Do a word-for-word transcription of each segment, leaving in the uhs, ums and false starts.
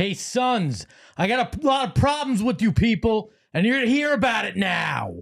Hey, Suns, I got a lot of problems with you people, and you're going to hear about it now.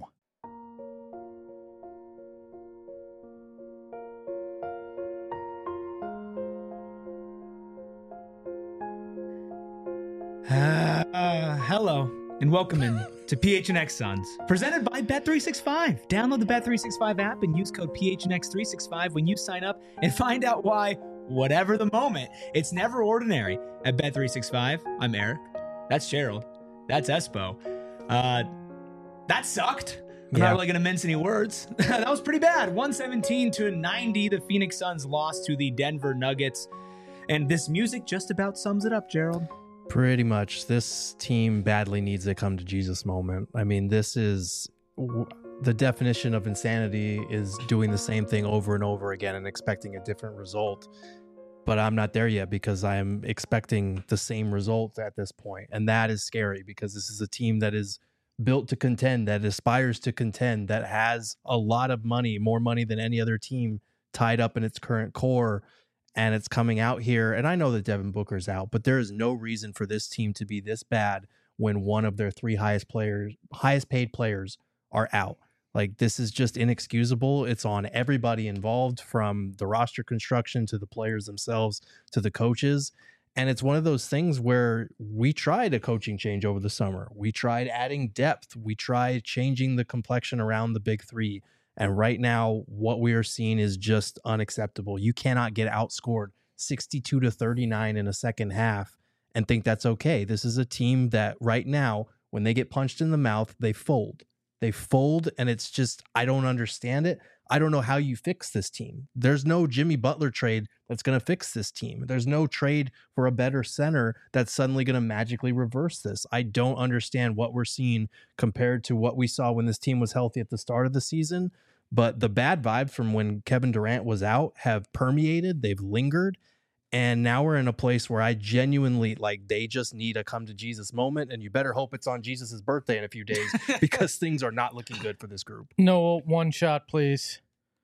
Uh, uh, hello, and welcome in to P H N X Suns, presented by Bet three sixty-five. Download the Bet three sixty-five app and use code P H N X three sixty-five when you sign up and find out why, whatever the moment, it's never ordinary at Bet three sixty-five. I'm Eric. That's Gerald. That's Espo. Uh, that sucked. I'm Yeah. not really going to mince any words. That was pretty bad. one seventeen to ninety, the Phoenix Suns lost to the Denver Nuggets. And this music just about sums it up, Gerald. Pretty much. This team badly needs a come to Jesus moment. I mean, this is w- the definition of insanity is doing the same thing over and over again and expecting a different result. But I'm not there yet because I'm expecting the same result at this point. And that is scary because this is a team that is built to contend, that aspires to contend, that has a lot of money, more money than any other team tied up in its current core. And it's coming out here. And I know that Devin Booker's out, but there is no reason for this team to be this bad when one of their three highest players, highest paid players are out. Like, this is just inexcusable. It's on everybody involved, from the roster construction to the players themselves to the coaches. And it's one of those things where we tried a coaching change over the summer. We tried adding depth. We tried changing the complexion around the big three. And right now, what we are seeing is just unacceptable. You cannot get outscored sixty-two to thirty-nine in a second half and think that's okay. This is a team that right now, when they get punched in the mouth, they fold. They fold, and it's just, I don't understand it. I don't know how you fix this team. There's no Jimmy Butler trade that's going to fix this team. There's no trade for a better center that's suddenly going to magically reverse this. I don't understand what we're seeing compared to what we saw when this team was healthy at the start of the season. But the bad vibes from when Kevin Durant was out have permeated. They've lingered. And now we're in a place where I genuinely, like, they just need a come to Jesus moment. And you better hope it's on Jesus's birthday in a few days because things are not looking good for this group. No, one shot, please.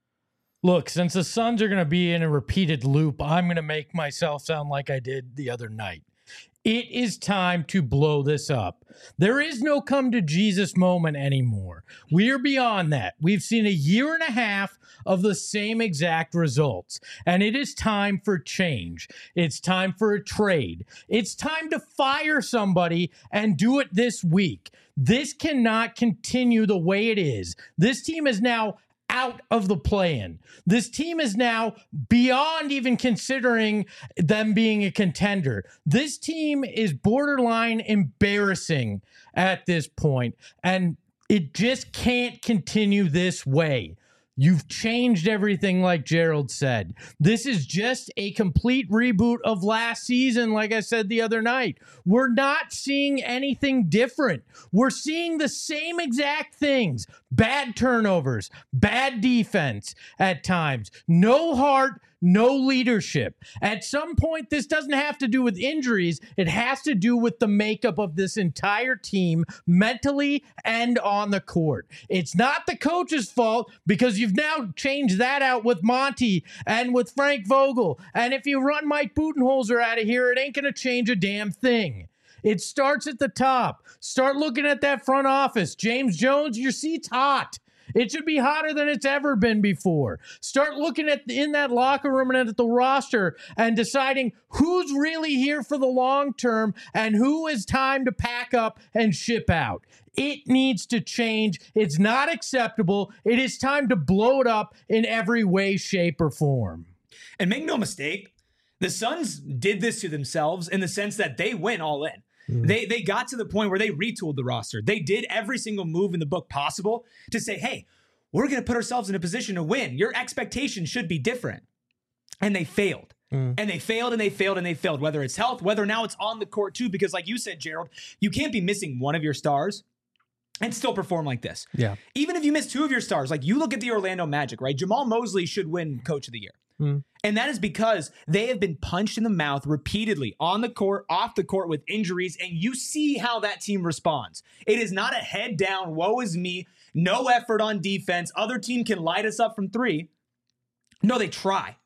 Look, since the Suns are going to be in a repeated loop, I'm going to make myself sound like I did the other night. It is time to blow this up. There is no come to Jesus moment anymore. We are beyond that. We've seen a year and a half of the same exact results, and it is time for change. It's time for a trade. It's time to fire somebody and do it this week. This cannot continue the way it is. This team is now out of the play-in. This team is now beyond even considering them being a contender. This team is borderline embarrassing at this point, and it just can't continue this way. You've changed everything, like Gerald said. This is just a complete reboot of last season, like I said the other night. We're not seeing anything different. We're seeing the same exact things. Bad turnovers, bad defense at times, no heart, no leadership. At some point, this doesn't have to do with injuries. It has to do with the makeup of this entire team, mentally and on the court. It's not the coach's fault because you've now changed that out with Monty and with Frank Vogel. And if you run Mike Budenholzer out of here, it ain't going to change a damn thing. It starts at the top. Start looking at that front office. James Jones, your seat's hot. It should be hotter than it's ever been before. Start looking at in that locker room and at the roster and deciding who's really here for the long term and who is time to pack up and ship out. It needs to change. It's not acceptable. It is time to blow it up in every way, shape, or form. And make no mistake, the Suns did this to themselves in the sense that they went all in. Mm. They they got to the point where they retooled the roster. They did every single move in the book possible to say, hey, we're going to put ourselves in a position to win. Your expectations should be different. And they failed. Mm. And they failed and they failed and they failed, whether it's health, whether now it's on the court too, because like you said, Gerald, you can't be missing one of your stars and still perform like this. Yeah. Even if you miss two of your stars, like you look at the Orlando Magic, right? Jamal Mosley should win Coach of the Year. Mm. And that is because they have been punched in the mouth repeatedly on the court, off the court with injuries, and you see how that team responds. It is not a head down, woe is me, no effort on defense, other team can light us up from three. No, they try.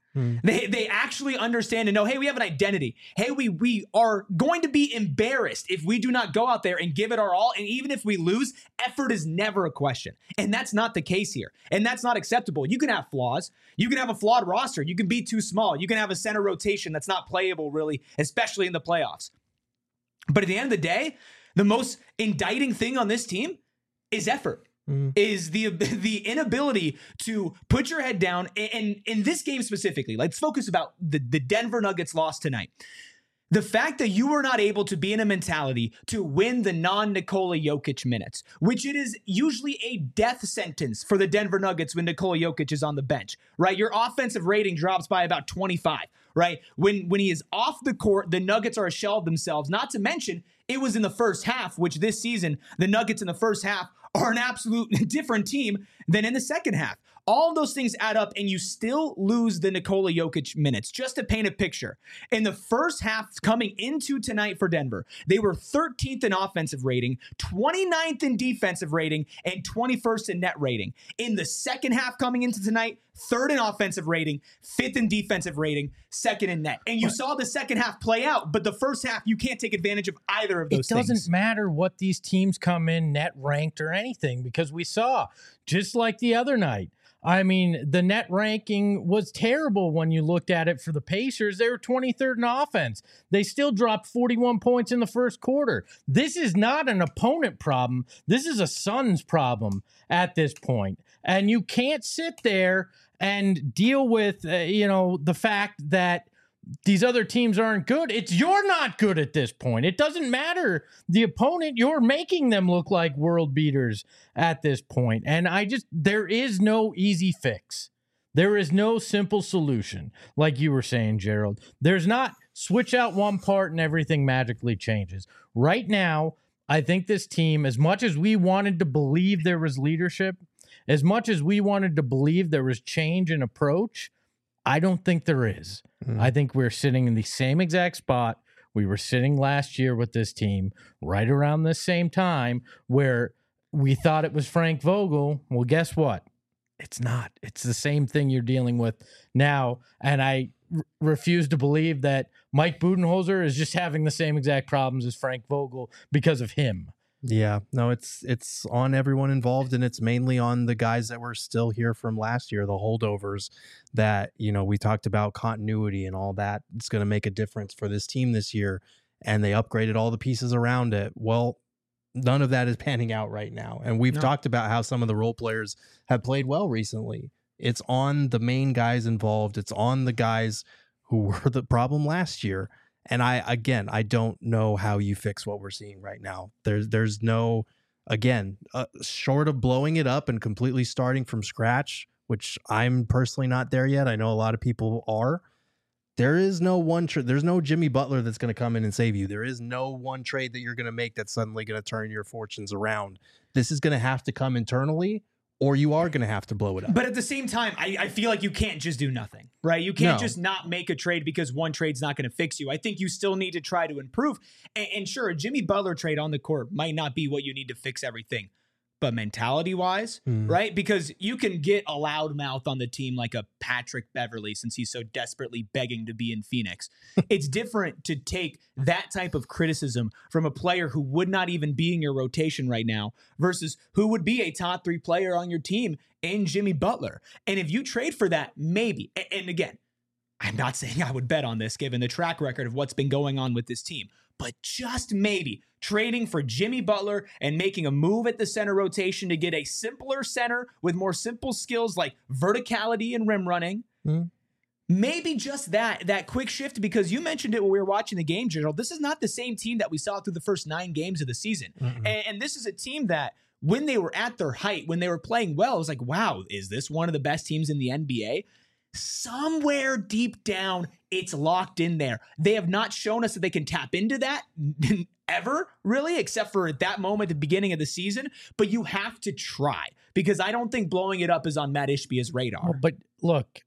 Hmm. They they actually understand and know, hey, we have an identity. Hey, we we are going to be embarrassed if we do not go out there and give it our all. And even if we lose, effort is never a question. And that's not the case here. And that's not acceptable. You can have flaws. You can have a flawed roster. You can be too small. You can have a center rotation that's not playable, really, especially in the playoffs. But at the end of the day, the most indicting thing on this team is effort. Mm. Is the the inability to put your head down. And in this game specifically, let's focus about the, the Denver Nuggets loss tonight. The fact that you were not able to be in a mentality to win the non-Nikola Jokic minutes, which it is usually a death sentence for the Denver Nuggets when Nikola Jokic is on the bench, right? Your offensive rating drops by about twenty-five, right? When, when he is off the court, the Nuggets are a shell of themselves. Not to mention, it was in the first half, which this season, the Nuggets in the first half are an absolute different team than in the second half. All of those things add up, and you still lose the Nikola Jokic minutes. Just to paint a picture, in the first half coming into tonight for Denver, they were thirteenth in offensive rating, twenty-ninth in defensive rating, and twenty-first in net rating. In the second half coming into tonight, third in offensive rating, fifth in defensive rating, second in net. And you but, saw the second half play out, but the first half, you can't take advantage of either of those things. It doesn't matter what these teams come in net ranked or anything, because we saw, just like the other night, I mean, the net ranking was terrible when you looked at it for the Pacers. They were twenty-third in offense. They still dropped forty-one points in the first quarter. This is not an opponent problem. This is a Suns problem at this point. And you can't sit there and deal with, uh, you know, the fact that these other teams aren't good. It's you're not good at this point. It doesn't matter the opponent. You're making them look like world beaters at this point. And I just, there is no easy fix. There is no simple solution. Like you were saying, Gerald, there's not switch out one part and everything magically changes. Right now, I think this team, as much as we wanted to believe there was leadership, as much as we wanted to believe there was change in approach, I don't think there is. Mm. I think we're sitting in the same exact spot we were sitting last year with this team, right around the same time, where we thought it was Frank Vogel. Well, guess what? It's not. It's the same thing you're dealing with now. And I r- refuse to believe that Mike Budenholzer is just having the same exact problems as Frank Vogel because of him. Yeah, no, it's it's on everyone involved, and it's mainly on the guys that were still here from last year, the holdovers that, you know, we talked about continuity and all that. It's going to make a difference for this team this year, and they upgraded all the pieces around it. Well, none of that is panning out right now, and we've no. talked about how some of the role players have played well recently. It's on the main guys involved. It's on the guys who were the problem last year. And I, again, I don't know how you fix what we're seeing right now. There's, there's no, again, uh, short of blowing it up and completely starting from scratch, which I'm personally not there yet. I know a lot of people are. There is no one, tra- there's no Jimmy Butler that's going to come in and save you. There is no one trade that you're going to make that's suddenly going to turn your fortunes around. This is going to have to come internally, or you are going to have to blow it up. But at the same time, I, I feel like you can't just do nothing, right? You can't No. just not make a trade because one trade's not going to fix you. I think you still need to try to improve. And, and sure, a Jimmy Butler trade on the court might not be what you need to fix everything. But mentality-wise, mm. right? Because you can get a loudmouth on the team like a Patrick Beverley since he's so desperately begging to be in Phoenix. It's different to take that type of criticism from a player who would not even be in your rotation right now versus who would be a top three player on your team in Jimmy Butler. And if you trade for that, maybe. And again, I'm not saying I would bet on this given the track record of what's been going on with this team. But just maybe trading for Jimmy Butler and making a move at the center rotation to get a simpler center with more simple skills like verticality and rim running. Mm. Maybe just that, that quick shift, because you mentioned it when we were watching the game, Gerald. This is not the same team that we saw through the first nine games of the season. Mm-hmm. And, and this is a team that when they were at their height, when they were playing well, it was like, wow, is this one of the best teams in the N B A? Somewhere deep down, it's locked in there. They have not shown us that they can tap into that ever, really, except for at that moment at the beginning of the season. But you have to try, because I don't think blowing it up is on Matt Ishbia's radar. Well, but look,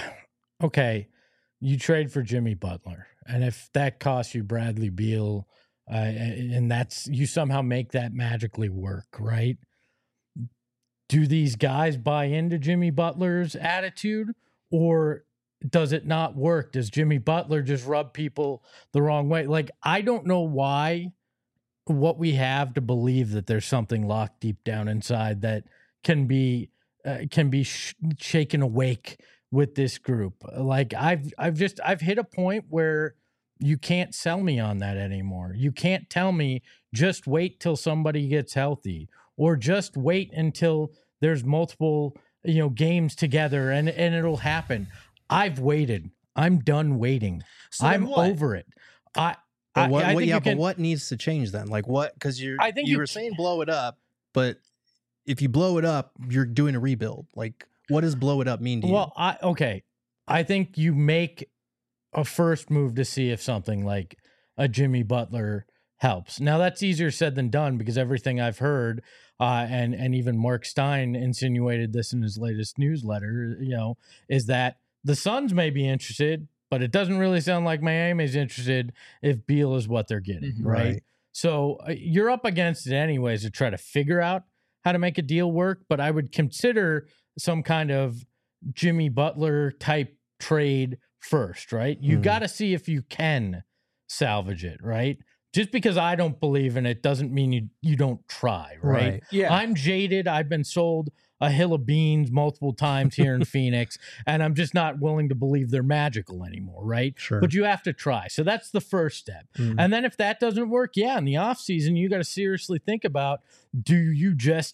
okay, you trade for Jimmy Butler, and if that costs you Bradley Beal, uh, and that's you somehow make that magically work, right? Do these guys buy into Jimmy Butler's attitude? Or does it not work? Does Jimmy Butler just rub people the wrong way? Like, I don't know why, what we have to believe that there's something locked deep down inside that can be uh, can be sh- shaken awake with this group. Like, I've I've just I've hit a point where you can't sell me on that anymore. You can't tell me just wait till somebody gets healthy, or just wait until there's multiple, you know, games together and and it'll happen. I've waited. I'm done waiting. So I'm what? over it. I, But I, what, I what think yeah, you can, but what needs to change then? Like what? Because you're, I think you you were ca- saying blow it up, but if you blow it up, you're doing a rebuild. Like, what does blow it up mean to you? Well, I okay. I think you make a first move to see if something like a Jimmy Butler helps. Now that's easier said than done, because everything I've heard, uh, and and even Mark Stein insinuated this in his latest newsletter, you know, is that the Suns may be interested, but it doesn't really sound like Miami's interested if Beal is what they're getting, Mhm. right? Right. So uh, you're up against it anyways to try to figure out how to make a deal work. But I would consider some kind of Jimmy Butler type trade first, right? You Hmm. got to see if you can salvage it, right? Just because I don't believe in it doesn't mean you you don't try, right? Right. Yeah. I'm jaded. I've been sold a hill of beans multiple times here in Phoenix, and I'm just not willing to believe they're magical anymore, right? Sure. But you have to try. So that's the first step. Mm. And then if that doesn't work, yeah, in the offseason, you got to seriously think about, do you just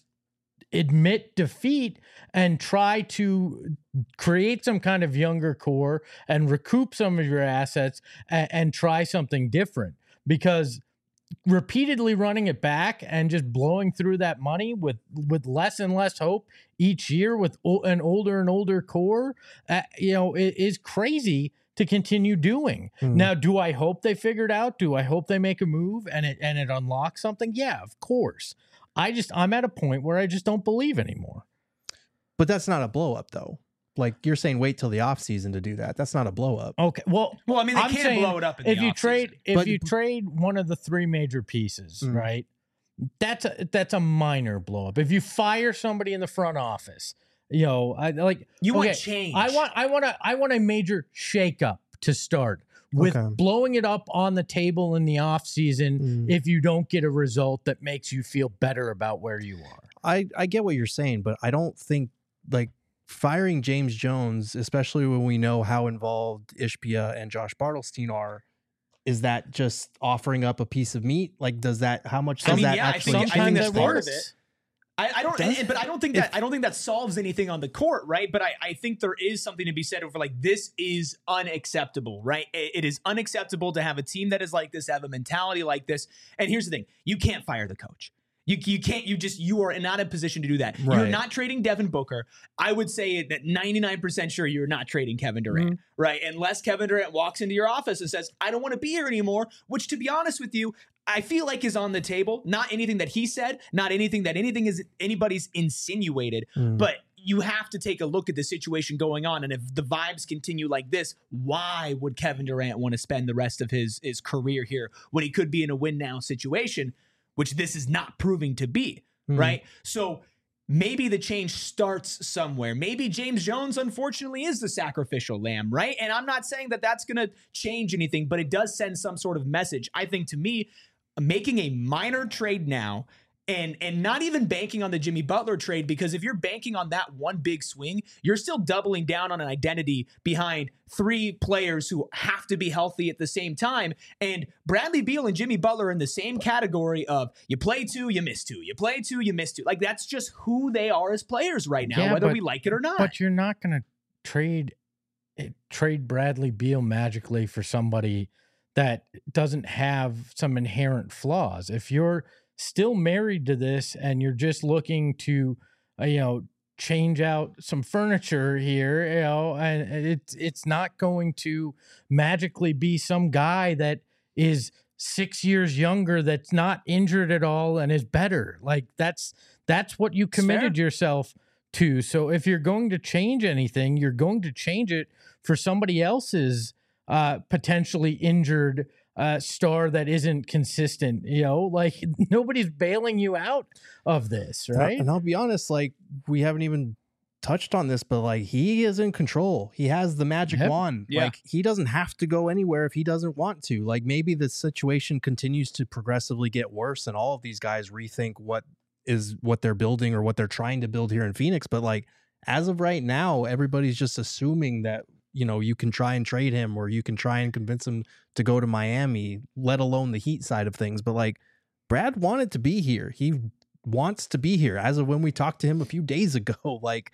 admit defeat and try to create some kind of younger core and recoup some of your assets and, and try something different? Because repeatedly running it back and just blowing through that money with with less and less hope each year with o- an older and older core, uh, you know, it is crazy to continue doing. Mm. Now, do I hope they figured out? Do I hope they make a move and it and it unlocks something? Yeah, of course. I just I'm at a point where I just don't believe anymore. But that's not a blow up though. Like you're saying, wait till the off season to do that. That's not a blow up. Okay, well, Well, I mean, they I'm can't saying blow it up in if the you offseason. trade if But- you trade one of the three major pieces, Mm. right? That's a that's a minor blow up. If you fire somebody in the front office, you know, I like You want okay, change. I want I want a I want a major shakeup to start with Okay. blowing it up on the table in the offseason Mm. if you don't get a result that makes you feel better about where you are. I, I get what you're saying, but I don't think like firing James Jones, especially when we know how involved Ishbia and Josh Bartelstein are, is that just offering up a piece of meat? Like, does that, how much I does mean, that yeah, I actually think- I think change that's it things? part of works. it. I, I don't, Does- and- but I don't think that I don't think that solves anything on the court, right? But I, I think there is something to be said over like this is unacceptable, right? It, it is unacceptable to have a team that is like this, have a mentality like this. And here's the thing: you can't fire the coach. You you can't. You just you are not in a position to do that. You're Right. not trading Devin Booker. I would say that ninety-nine percent sure you're not trading Kevin Durant, Mm-hmm. right? Unless Kevin Durant walks into your office and says, "I don't want to be here anymore," which, to be honest with you, I feel like is on the table. Not anything that he said, not anything that anything is anybody's insinuated, Mm. but you have to take a look at the situation going on. And if the vibes continue like this, why would Kevin Durant want to spend the rest of his his career here when he could be in a win now situation, which this is not proving to be, Mm. right? So maybe the change starts somewhere. Maybe James Jones, unfortunately, is the sacrificial lamb, right? And I'm not saying that that's going to change anything, but it does send some sort of message. I think to me, making a minor trade now and and not even banking on the Jimmy Butler trade, because if you're banking on that one big swing, you're still doubling down on an identity behind three players who have to be healthy at the same time. And Bradley Beal and Jimmy Butler are in the same category of you play two, you miss two. You play two, you miss two. Like that's just who they are as players right now, Yeah, whether but- we like it or not. But you're not going to trade eh, trade Bradley Beal magically for somebody that doesn't have some inherent flaws. If you're still married to this and you're just looking to, uh, you know, change out some furniture here, you know, and it's it's not going to magically be some guy that is six years younger that's not injured at all and is better. Like that's that's what you It's fair. committed yourself to. So if you're going to change anything, you're going to change it for somebody else's uh, potentially injured uh, star that isn't consistent. You know, like nobody's bailing you out of this, right? And I'll be honest, like we haven't even touched on this, but like he is in control. He has the magic Yep. wand. Yeah. Like he doesn't have to go anywhere if he doesn't want to. Like maybe the situation continues to progressively get worse and all of these guys rethink what is what they're building or what they're trying to build here in Phoenix. But like as of right now, everybody's just assuming that, you know, you can try and trade him or you can try and convince him to go to Miami, let alone the Heat side of things. But like Brad wanted to be here. He wants to be here as of when we talked to him a few days ago. Like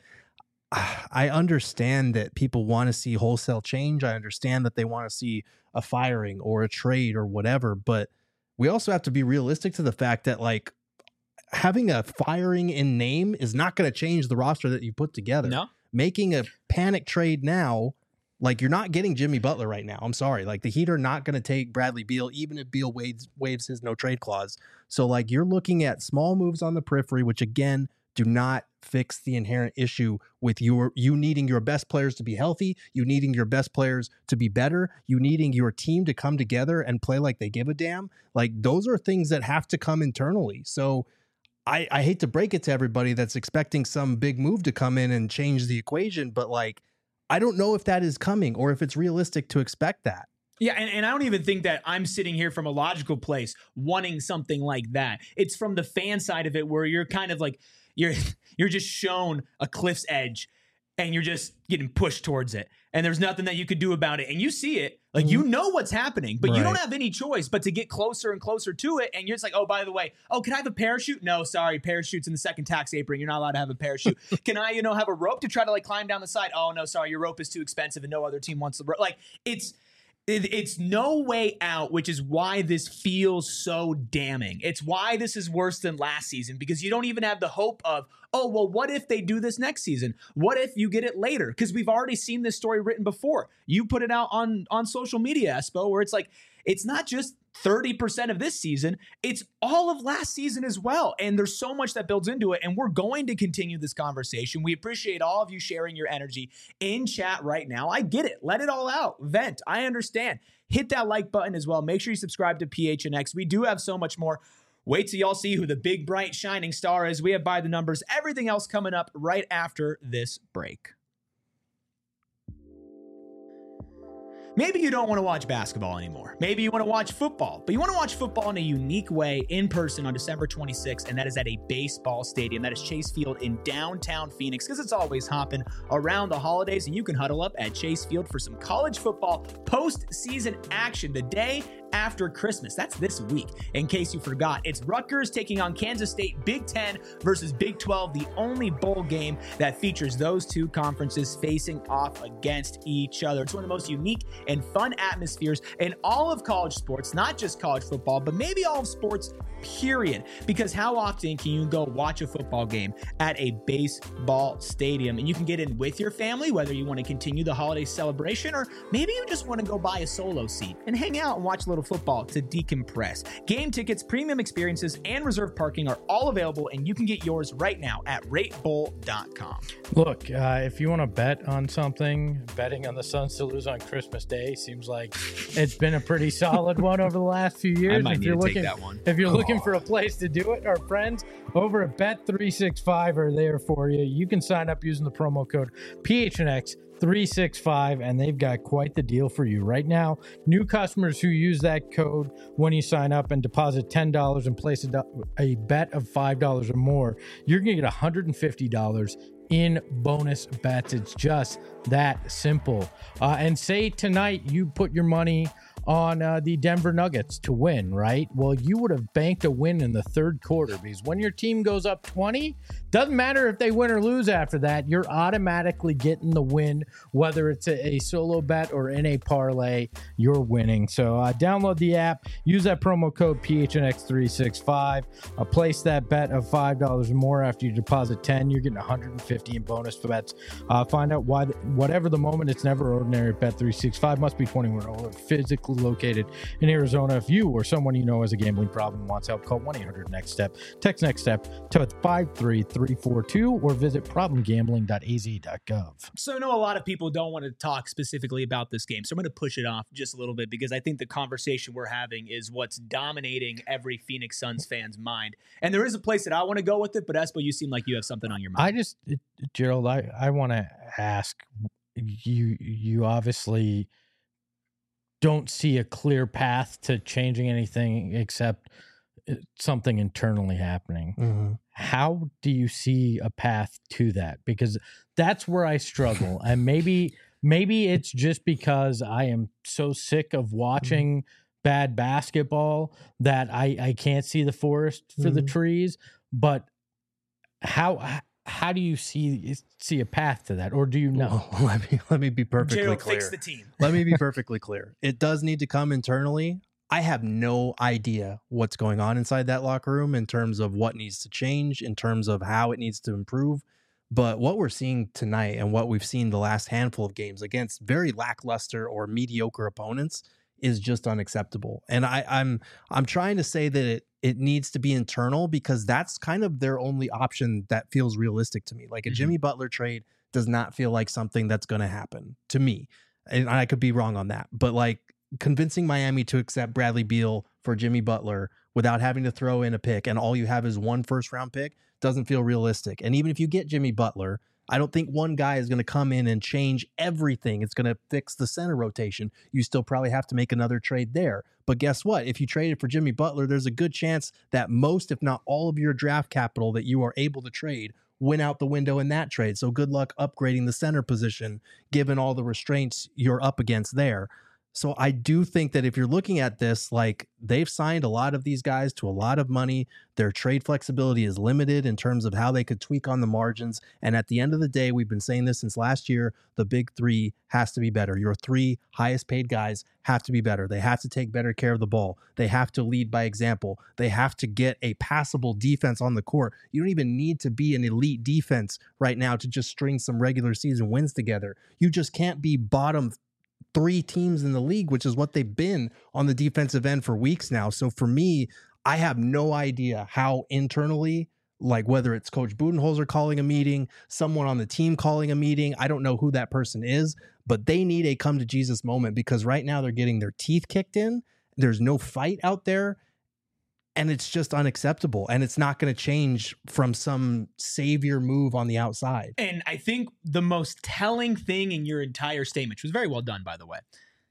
I understand that people want to see wholesale change. I understand that they want to see a firing or a trade or whatever, but we also have to be realistic to the fact that like having a firing in name is not going to change the roster that you put together. No. Making a panic trade now, like you're not getting Jimmy Butler right now. I'm sorry. Like the Heat are not going to take Bradley Beal, even if Beal waives, waives his no trade clause. So like you're looking at small moves on the periphery, which again, do not fix the inherent issue with your, you needing your best players to be healthy, you needing your best players to be better, you needing your team to come together and play like they give a damn. Like those are things that have to come internally. So I, I hate to break it to everybody that's expecting some big move to come in and change the equation, but like, I don't know if that is coming or if it's realistic to expect that. Yeah, and, and I don't even think that I'm sitting here from a logical place wanting something like that. It's from the fan side of it where you're kind of like, you're you're just shown a cliff's edge and you're just getting pushed towards it. And there's nothing that you could do about it. And you see it, like you know what's happening, but Right. you don't have any choice but to get closer and closer to it. And you're just like, oh, by the way, oh, can I have a parachute? No, sorry, parachute's in the second tax apron. You're not allowed to have a parachute. Can I, you know, have a rope to try to like climb down the side? Oh, no, sorry, your rope is too expensive and no other team wants the rope. Like it's, it, it's no way out, which is why this feels so damning. It's why this is worse than last season, because you don't even have the hope of, oh, well, what if they do this next season? What if you get it later? Because we've already seen this story written before. You put it out on, on social media, Espo, where it's like, it's not just thirty percent of this season, it's all of last season as well. And there's so much that builds into it. And we're going to continue this conversation. We appreciate all of you sharing your energy in chat right now. I get it. Let it all out. Vent. I understand. Hit that like button as well. Make sure you subscribe to P H N X. We do have so much more. Wait till y'all see who the big, bright, shining star is. We have By the Numbers, everything else coming up right after this break. Maybe you don't want to watch basketball anymore. Maybe you want to watch football, but you want to watch football in a unique way in person on December twenty-sixth, and that is at a baseball stadium. That is Chase Field in downtown Phoenix, because it's always hopping around the holidays, and you can huddle up at Chase Field for some college football postseason action the day after Christmas. That's this week. In case you forgot, it's Rutgers taking on Kansas State, Big Ten versus Big twelve, the only bowl game that features those two conferences facing off against each other. It's one of the most unique and fun atmospheres in all of college sports, not just college football, but maybe all of sports, period. Because how often can you go watch a football game at a baseball stadium? And you can get in with your family, whether you want to continue the holiday celebration, or maybe you just want to go buy a solo seat and hang out and watch a little football to decompress. Game tickets, premium experiences, and reserved parking are all available, and you can get yours right now at rate bowl dot com. Look, uh, if you want to bet on something, betting on the Suns to lose on Christmas Day seems like it's been a pretty solid one over the last few years. I might if need you're to looking, take that one. If you're Oh. looking for a place to do it, our friends over at Bet three sixty-five are there for you. You can sign up using the promo code P H N X three sixty-five, and they've got quite the deal for you right now. New customers who use that code when you sign up and deposit ten dollars and place a, do- a bet of five dollars or more, you're going to get one hundred fifty dollars in bonus bets. It's just that simple. Uh, and say tonight you put your money on uh, the Denver Nuggets to win, right? Well, you would have banked a win in the third quarter, because when your team goes up twenty, doesn't matter if they win or lose after that, you're automatically getting the win, whether it's a, a solo bet or in a parlay, you're winning. So uh, download the app, use that promo code P H N X three sixty-five, uh, place that bet of five dollars or more. After you deposit ten, you're getting one hundred fifty in bonus bets. Uh, find out why, the, whatever the moment, it's never ordinary. Bet three sixty-five must be twenty-one or older, physically locally located in Arizona. If you or someone you know has a gambling problem and wants help, call one eight hundred next step. Text next step to five three three four two or visit problem gambling dot a z dot gov. So I know a lot of people don't want to talk specifically about this game, so I'm going to push it off just a little bit because I think the conversation we're having is what's dominating every Phoenix Suns fan's mind. And there is a place that I want to go with it, but Espo, you seem like you have something on your mind. I just, Gerald, I, I want to ask you, you obviously don't see a clear path to changing anything except something internally happening. Mm-hmm. How do you see a path to that? Because that's where I struggle. And maybe maybe it's just because I am so sick of watching mm-hmm. bad basketball that I, I can't see the forest for mm-hmm. the trees. But how how do you see see a path to that? Or do you know? Well, let me let me be perfectly Gerald, clear. fix the team. Let me be perfectly clear. It does need to come internally. I have no idea what's going on inside that locker room in terms of what needs to change, in terms of how it needs to improve. But what we're seeing tonight and what we've seen the last handful of games against very lackluster or mediocre opponents is just unacceptable. And I, I'm I'm trying to say that it it needs to be internal because that's kind of their only option that feels realistic to me. Like a mm-hmm. Jimmy Butler trade does not feel like something that's going to happen to me. And I could be wrong on that. But like, convincing Miami to accept Bradley Beal for Jimmy Butler without having to throw in a pick and all you have is one first round pick doesn't feel realistic. And even if you get Jimmy Butler, I don't think one guy is going to come in and change everything. It's going to fix the center rotation. You still probably have to make another trade there. But guess what? If you traded for Jimmy Butler, there's a good chance that most, if not all of your draft capital that you are able to trade went out the window in that trade. So good luck upgrading the center position, given all the restraints you're up against there. So I do think that if you're looking at this, like they've signed a lot of these guys to a lot of money. Their trade flexibility is limited in terms of how they could tweak on the margins. And at the end of the day, we've been saying this since last year, the big three has to be better. Your three highest paid guys have to be better. They have to take better care of the ball. They have to lead by example. They have to get a passable defense on the court. You don't even need to be an elite defense right now to just string some regular season wins together. You just can't be bottom three teams in the league, which is what they've been on the defensive end for weeks now. So for me, I have no idea how internally, like whether it's Coach Budenholzer calling a meeting, someone on the team calling a meeting, I don't know who that person is, but they need a come to Jesus moment because right now they're getting their teeth kicked in. There's no fight out there. And it's just unacceptable. And it's not going to change from some savior move on the outside. And I think the most telling thing in your entire statement, which was very well done, by the way,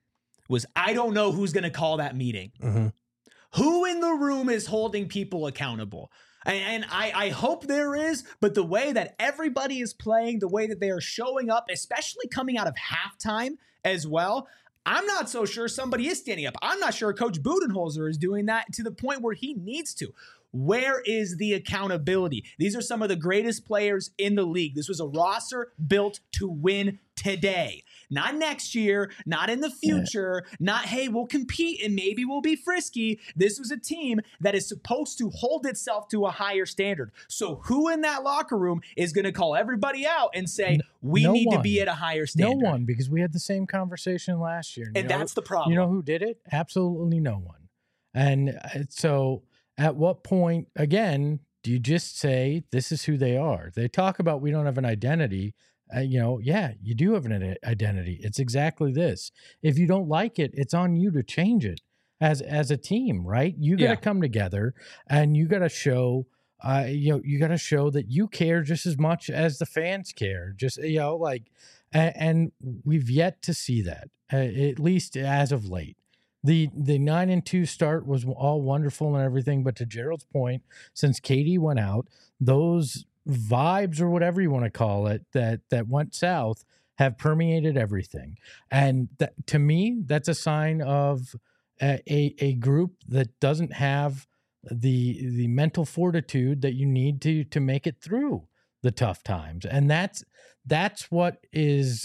was I don't know who's going to call that meeting. Mm-hmm. Who in the room is holding people accountable? And, and I, I hope there is, but the way that everybody is playing, the way that they are showing up, especially coming out of halftime as well, I'm not so sure somebody is standing up. I'm not sure Coach Budenholzer is doing that to the point where he needs to. Where is the accountability? These are some of the greatest players in the league. This was a roster built to win today. Not next year, not in the future, yeah. not, hey, we'll compete and maybe we'll be frisky. This was a team that is supposed to hold itself to a higher standard. So who in that locker room is going to call everybody out and say, we no need one. to be at a higher standard? No one, because we had the same conversation last year. And, and that's know, the problem. You know who did it? Absolutely no one. And so at what point, again, do you just say, this is who they are? They talk about we don't have an identity. Uh, you know, yeah, you do have an identity. It's exactly this. If you don't like it, it's on you to change it as as a team, right? You got to yeah. come together and you got to show, uh, you know, you got to show that you care just as much as the fans care. Just, you know, like, and, and we've yet to see that, uh, at least as of late. The the nine and two start was all wonderful and everything, but to Gerald's point, since K D went out, those vibes or whatever you want to call it that that went south have permeated everything. And that, to me, that's a sign of a, a, a group that doesn't have the the mental fortitude that you need to to make it through the tough times. And that's that's what is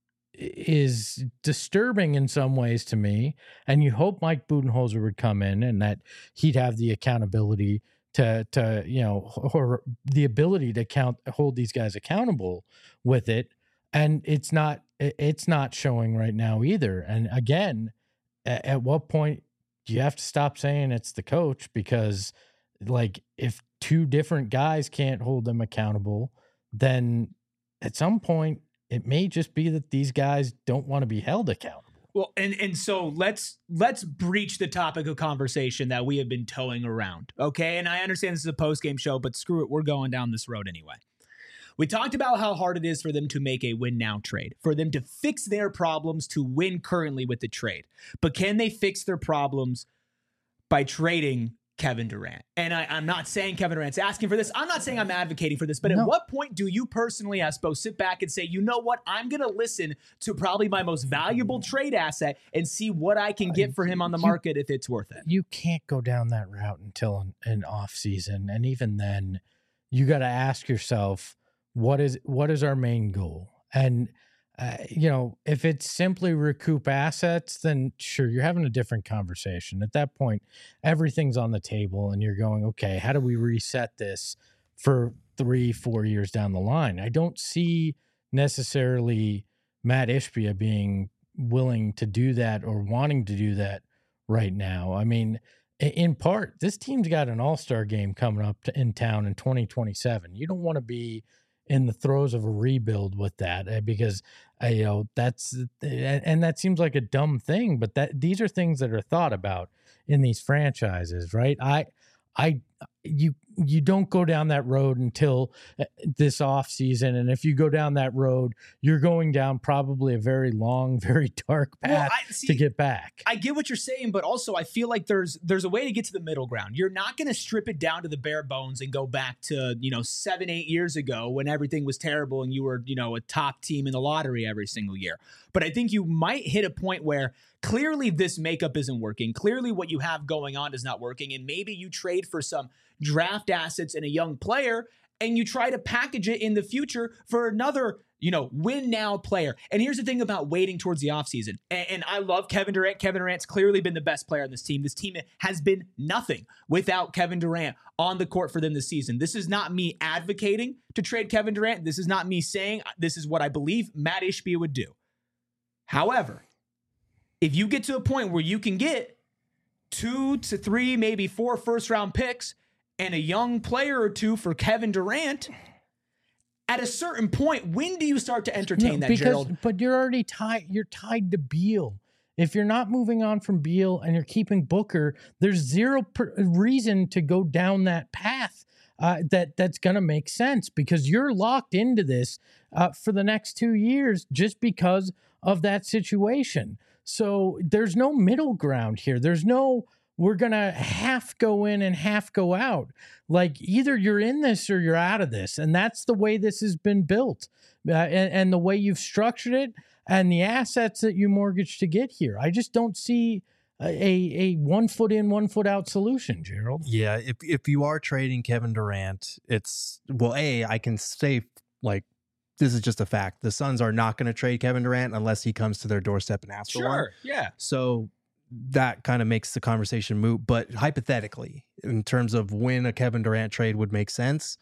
is disturbing in some ways to me. And you hope Mike Budenholzer would come in and that he'd have the accountability to, to, you know, or the ability to count, hold these guys accountable with it. And it's not, it's not showing right now either. And again, at, at what point do you have to stop saying it's the coach? Because like if two different guys can't hold them accountable, then at some point it may just be that these guys don't want to be held accountable. Well, and and so let's let's breach the topic of conversation that we have been towing around, okay? And I understand this is a post-game show, but screw it, we're going down this road anyway. We talked about how hard it is for them to make a win now trade, for them to fix their problems to win currently with the trade. But can they fix their problems by trading Kevin Durant? And I, I'm not saying Kevin Durant's asking for this. I'm not saying I'm advocating for this. But No. at what point do you personally, Espo, sit back and say, you know what? I'm going to listen to probably my most valuable trade asset and see what I can get for him on the You- market if it's worth it. You can't go down that route until an, an off season. And even then, you got to ask yourself, what is what is our main goal? And uh, you know, if it's simply recoup assets, then sure, you're having a different conversation. At that point, everything's on the table, and you're going, okay, how do we reset this for three, four years down the line? I don't see necessarily Matt Ishbia being willing to do that or wanting to do that right now. I mean, i- in part, this team's got an all-star game coming up to, in town in twenty twenty-seven. You don't want to be in the throes of a rebuild with that uh, because uh, you know that's and, and that seems like a dumb thing, but that these are things that are thought about in these franchises, right? I, I, you you don't go down that road until uh, this off season, and if you go down that road, you're going down probably a very long, very dark path Well, I, see, to get back. I get what you're saying, but also I feel like there's there's a way to get to the middle ground. You're not going to strip it down to the bare bones and go back to, you know, seven, eight years ago when everything was terrible and you were, you know, a top team in the lottery every single year. But I think you might hit a point where clearly this makeup isn't working. Clearly what you have going on is not working. And maybe you trade for some draft assets and a young player and you try to package it in the future for another, you know, win now player. And here's the thing about waiting towards the offseason. And, and I love Kevin Durant. Kevin Durant's clearly been the best player on this team. This team has been nothing without Kevin Durant on the court for them this season. This is not me advocating to trade Kevin Durant. This is not me saying this is what I believe Matt Ishbia would do. However, if you get to a point where you can get two to three, maybe four first round picks and a young player or two for Kevin Durant, at a certain point, when do you start to entertain No, that, because, Gerald? But you're already tied. You're tied to Beal. If you're not moving on from Beal and you're keeping Booker, there's zero per- reason to go down that path. Uh, that that's going to make sense because you're locked into this uh, for the next two years just because of that situation. So there's no middle ground here. There's no we're going to half go in and half go out. Like either you're in this or you're out of this. And that's the way this has been built uh, and, and the way you've structured it and the assets that you mortgaged to get here. I just don't see a, a one foot in, one foot out solution, Gerald. Yeah, if if you are trading Kevin Durant, it's well, A, I can say like this is just a fact. The Suns are not going to trade Kevin Durant unless he comes to their doorstep and asks for one. yeah. So that kind of makes the conversation moot. But hypothetically, in terms of when a Kevin Durant trade would make sense,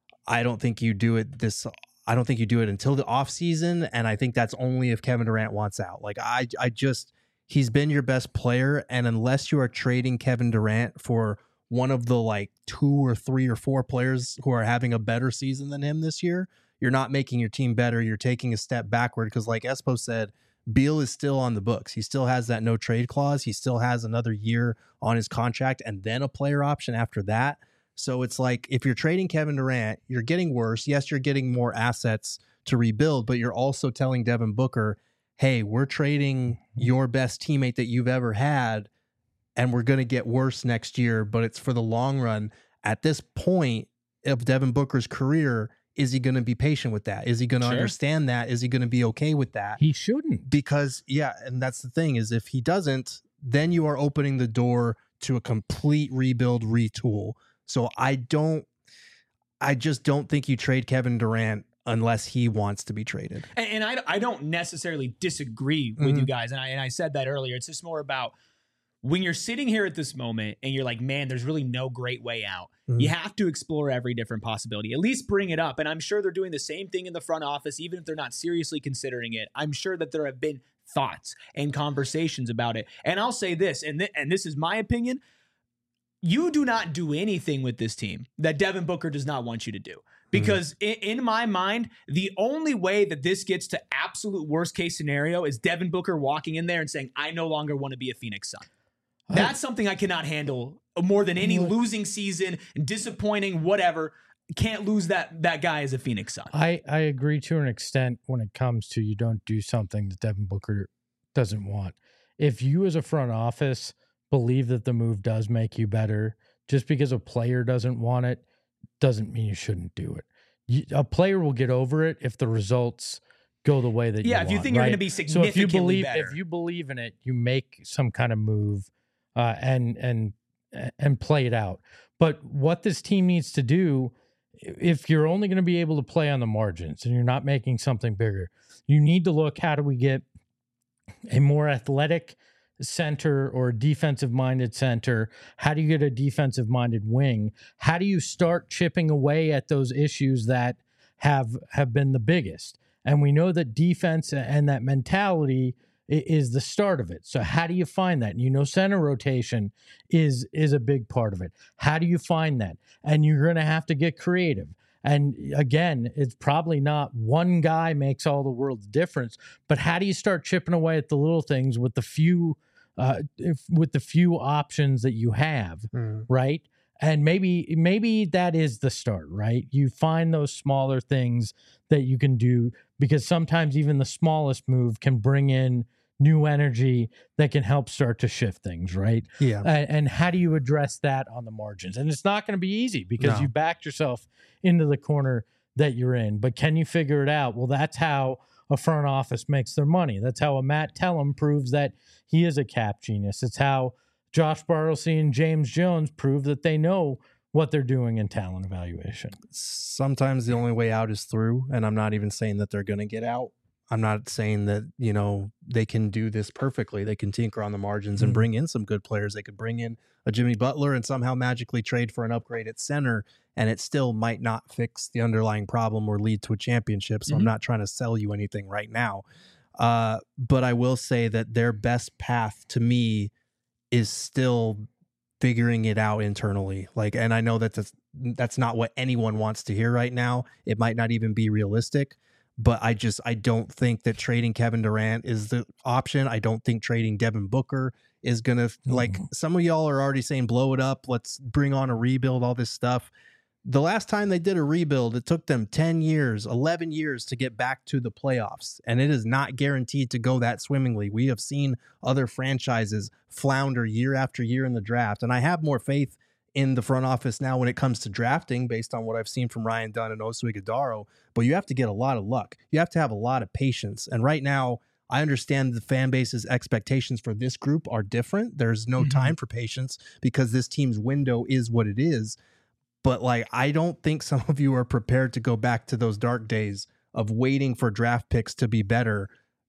I don't think you do it this. I don't think you do it until the offseason. And I think that's only if Kevin Durant wants out. Like I, I just he's been your best player, and unless you are trading Kevin Durant for one of the like two or three or four players who are having a better season than him this year, you're not making your team better. You're taking a step backward because, like Espo said, Beal is still on the books. He still has that no trade clause. He still has another year on his contract and then a player option after that. So it's like if you're trading Kevin Durant, you're getting worse. Yes, you're getting more assets to rebuild, but you're also telling Devin Booker, hey, we're trading your best teammate that you've ever had, and we're going to get worse next year, but it's for the long run. At this point of Devin Booker's career, is he going to be patient with that? Is he going to Sure. understand that? Is he going to be okay with that? He shouldn't. Because, yeah, and that's the thing is if he doesn't, then you are opening the door to a complete rebuild, retool. So I don't, I just don't think you trade Kevin Durant unless he wants to be traded. And, and I, I don't necessarily disagree with Mhm. you guys. And I, and I said that earlier. It's just more about when you're sitting here at this moment and you're like, man, there's really no great way out. Mhm. You have to explore every different possibility, at least bring it up. And I'm sure they're doing the same thing in the front office, even if they're not seriously considering it. I'm sure that there have been thoughts and conversations about it. And I'll say this, and, th- and this is my opinion. You do not do anything with this team that Devin Booker does not want you to do. Because mm-hmm. in, in my mind, the only way that this gets to absolute worst case scenario is Devin Booker walking in there and saying, I no longer want to be a Phoenix Sun. That's something I cannot handle more than any losing season, disappointing, whatever. Can't lose that that guy as a Phoenix Sun. I, I agree to an extent when it comes to you don't do something that Devin Booker doesn't want. If you as a front office believe that the move does make you better, just because a player doesn't want it, doesn't mean you shouldn't do it. You, a player will get over it if the results go the way that yeah, you if you want, think right? you're going to be significantly so if you believe, better. If you believe in it, you make some kind of move uh, and and and play it out. But what this team needs to do, if you're only going to be able to play on the margins and you're not making something bigger, you need to look, how do we get a more athletic center or defensive-minded center? How do you get a defensive-minded wing? How do you start chipping away at those issues that have have been the biggest? And we know that defense and that mentality is the start of it. So how do you find that? And you know, center rotation is is a big part of it. How do you find that? And you're going to have to get creative. And again, it's probably not one guy makes all the world's difference, but how do you start chipping away at the little things with the few uh, if, with the few options that you have, mm. right? And maybe maybe that is the start, right? You find those smaller things that you can do, because sometimes even the smallest move can bring in new energy that can help start to shift things, right? Yeah. Uh, and how do you address that on the margins? And it's not going to be easy because No. you backed yourself into the corner that you're in. But can you figure it out? Well, that's how a front office makes their money. That's how a Matt Tellem proves that he is a cap genius. It's how Josh Bartlesy and James Jones prove that they know what they're doing in talent evaluation. Sometimes the only way out is through, and I'm not even saying that they're going to get out. I'm not saying that, you know, they can do this perfectly. They can tinker on the margins and bring in some good players. They could bring in a Jimmy Butler and somehow magically trade for an upgrade at center, and it still might not fix the underlying problem or lead to a championship. So mm-hmm. I'm not trying to sell you anything right now. Uh, but I will say that their best path to me is still figuring it out internally. Like, and I know that that's, that's not what anyone wants to hear right now. It might not even be realistic. But I just, I don't think that trading Kevin Durant is the option. I don't think trading Devin Booker is going to, mm-hmm. like, some of y'all are already saying, blow it up. Let's bring on a rebuild, all this stuff. The last time they did a rebuild, it took them ten years, eleven years to get back to the playoffs. And it is not guaranteed to go that swimmingly. We have seen other franchises flounder year after year in the draft. And I have more faith in the front office now when it comes to drafting, based on what I've seen from Ryan Dunn and Oso Ighodaro, but you have to get a lot of luck. You have to have a lot of patience. And right now, I understand the fan base's expectations for this group are different. There's no mm-hmm. time for patience because this team's window is what it is. But like, I don't think some of you are prepared to go back to those dark days of waiting for draft picks to be better.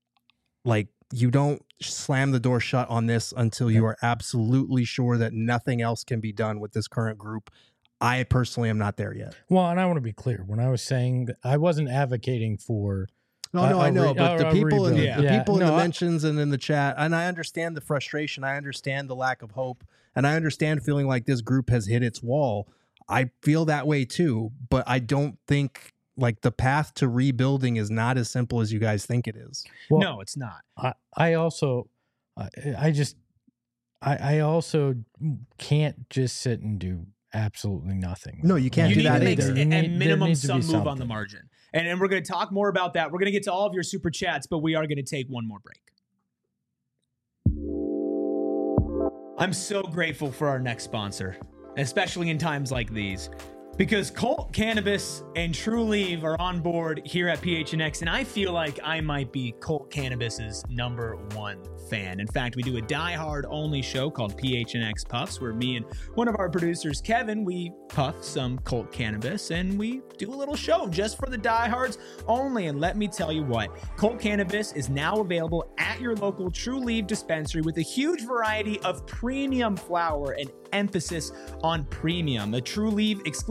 Like, you don't slam the door shut on this until you are absolutely sure that nothing else can be done with this current group. I personally am not there yet. Well, and I want to be clear. When I was saying that, I wasn't advocating for No, no, a, I know, re- but the people in the, yeah. the yeah. people in no, the I, mentions and in the chat, and I understand the frustration. I understand the lack of hope, and I understand feeling like this group has hit its wall. I feel that way too, but I don't think like the path to rebuilding is not as simple as you guys think it is. Well, no, it's not. I, I also, I, I just, I, I also can't just sit and do absolutely nothing. No, you can't you do need that to make either. a, need, a minimum some move something. on the margin. And, and we're going to talk more about that. We're going to get to all of your super chats, but we are going to take one more break. I'm so grateful for our next sponsor, especially in times like these, because Colt Cannabis and Trulieve are on board here at P H N X, and I feel like I might be Colt Cannabis's number one fan. In fact, we do a diehard only show called P H N X Puffs, where me and one of our producers, Kevin, we puff some Colt Cannabis, and we do a little show just for the diehards only. And let me tell you what, Colt Cannabis is now available at your local Trulieve dispensary with a huge variety of premium flower and emphasis on premium. A Trulieve exclusive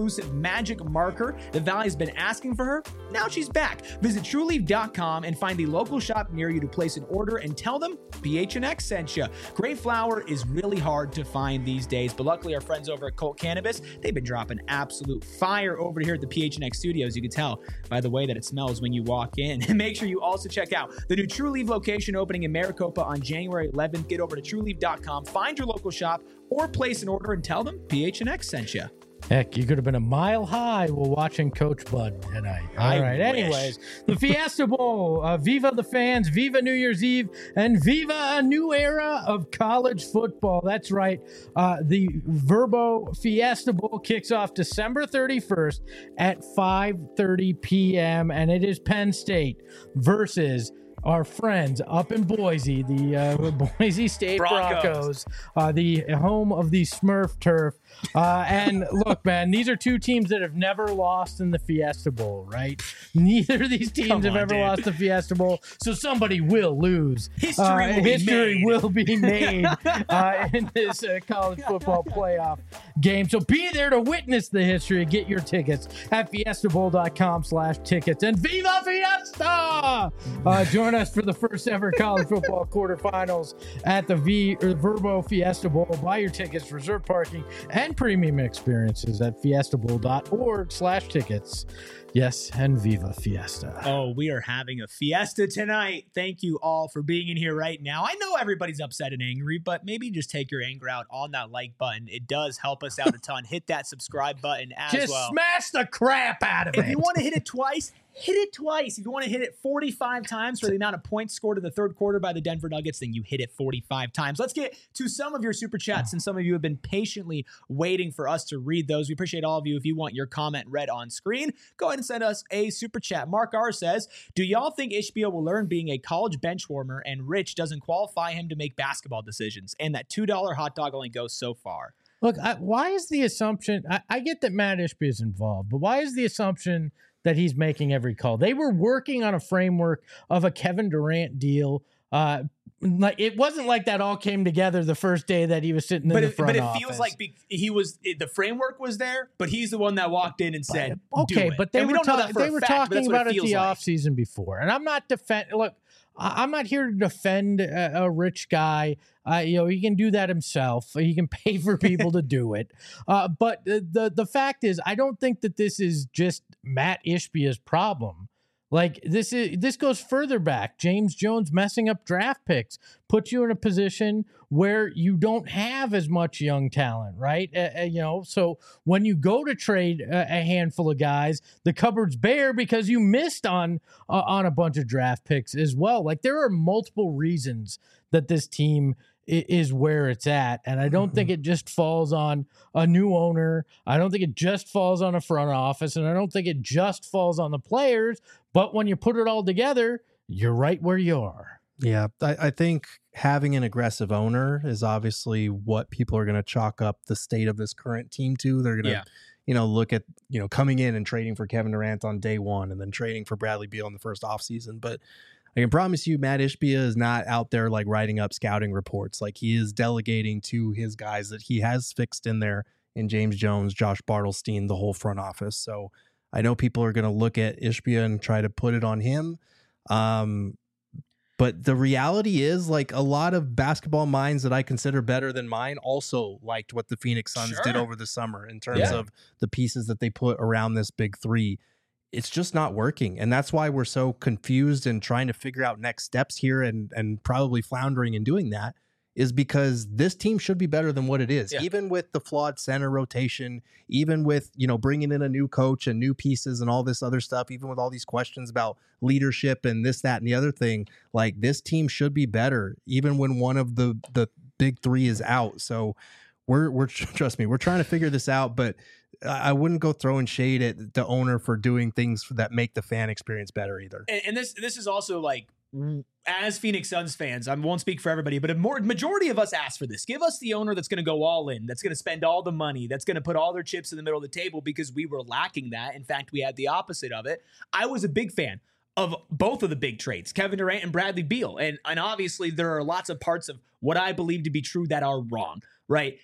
exclusive magic marker the Valley's been asking for her? Now she's back. Visit true leaf dot com and find the local shop near you to place an order and tell them P H N X sent you. Great flower is really hard to find these days, but luckily our friends over at Colt Cannabis, they've been dropping absolute fire over here at the P H N X studios. You can tell by the way that it smells when you walk in. And make sure you also check out the new True Leaf location opening in Maricopa on January eleventh. Get over to true leaf dot com, find your local shop, or place an order and tell them P H N X sent you. Heck, you could have been a mile high while watching Coach Bud tonight. All I right. wish. Anyways, the Fiesta Bowl, uh, Viva the fans, Viva New Year's Eve, and Viva a new era of college football. That's right. Uh, the Verbo Fiesta Bowl kicks off December thirty-first at five thirty p.m. and it is Penn State versus our friends up in Boise, the uh, Boise State Broncos, Broncos uh, the home of the Smurf turf. Uh, and look, man, these are two teams that have never lost in the Fiesta Bowl, right? Neither of these teams Come have on, ever dude. lost the Fiesta Bowl, so somebody will lose. History Uh, will be history made. will be made uh, in this uh, college football playoff game. So be there to witness the history. Get your tickets at fiesta bowl dot com slash tickets. And Viva Fiesta! Uh, join us for the first ever college football quarterfinals at the V or Verbo Fiesta Bowl. Buy your tickets, reserve parking, and premium experiences at fiesta bowl dot org slash tickets. Yes, and Viva Fiesta. Oh, we are having a fiesta tonight. Thank you all for being in here right now. I know everybody's upset and angry, but maybe just take your anger out on that like button. It does help us out a ton. Hit that subscribe button as Just well. smash the crap out of If it. you want to hit it twice, hit it twice. If you want to hit it forty-five times for the amount of points scored in the third quarter by the Denver Nuggets, then you hit it forty-five times. Let's get to some of your super chats, and some of you have been patiently waiting for us to read those. We appreciate all of you. If you want your comment read on screen, go ahead and send us a super chat. Mark R says, do y'all think Ishbia will learn being a college bench warmer and Rich doesn't qualify him to make basketball decisions, and that two dollar hot dog only goes so far? Look, I, why is the assumption? I, I get that Matt Ishbia is involved, but why is the assumption that he's making every call? They were working on a framework of a Kevin Durant deal. Uh, like it wasn't like that all came together the first day that he was sitting in But the it, front but it office. feels like be, he was it, the framework was there, but he's the one that walked in and said, "Do okay, it." but they And we were, don't know ta- that for they a were fact, but talking that's what about it feels the like. off season before, and I'm not defend. Look, I- I'm not here to defend a, a rich guy. Uh, you know, he can do that himself. He can pay for people to do it. Uh, but the, the the fact is, I don't think that this is just Matt Ishbia's problem. Like this is this goes further back. James Jones messing up draft picks puts you in a position where you don't have as much young talent, right? Uh, uh, you know, so when you go to trade a, a handful of guys, the cupboard's bare because you missed on uh, on a bunch of draft picks as well. Like there are multiple reasons that this team is where it's at. And I don't mm-hmm. think it just falls on a new owner. I don't think it just falls on a front office. And I don't think it just falls on the players. But when you put it all together, you're right where you are. Yeah, I, I think having an aggressive owner is obviously what people are going to chalk up the state of this current team to. They're going to, yeah. you know, look at, you know, coming in and trading for Kevin Durant on day one and then trading for Bradley Beal in the first offseason. But I can promise you, Matt Ishbia is not out there like writing up scouting reports. Like he is delegating to his guys that he has fixed in there in James Jones, Josh Bartelstein, the whole front office. So I know people are going to look at Ishbia and try to put it on him. Um, but the reality is, like a lot of basketball minds that I consider better than mine also liked what the Phoenix Suns Sure. did over the summer in terms Yeah. of the pieces that they put around this big three. It's just not working. And that's why we're so confused and trying to figure out next steps here and, and probably floundering in doing that is because this team should be better than what it is. Yeah. Even with the flawed center rotation, even with, you know, bringing in a new coach and new pieces and all this other stuff, even with all these questions about leadership and this, that, and the other thing, like this team should be better even when one of the, the big three is out. So we're, we're, trust me, we're trying to figure this out, but I wouldn't go throwing shade at the owner for doing things that make the fan experience better either. And, and this this is also like, as Phoenix Suns fans, I won't speak for everybody, but a more majority of us ask for this. Give us the owner that's going to go all in, that's going to spend all the money, that's going to put all their chips in the middle of the table, because we were lacking that. In fact, we had the opposite of it. I was a big fan of both of the big trades, Kevin Durant and Bradley Beal. And, and obviously there are lots of parts of what I believe to be true that are wrong, right?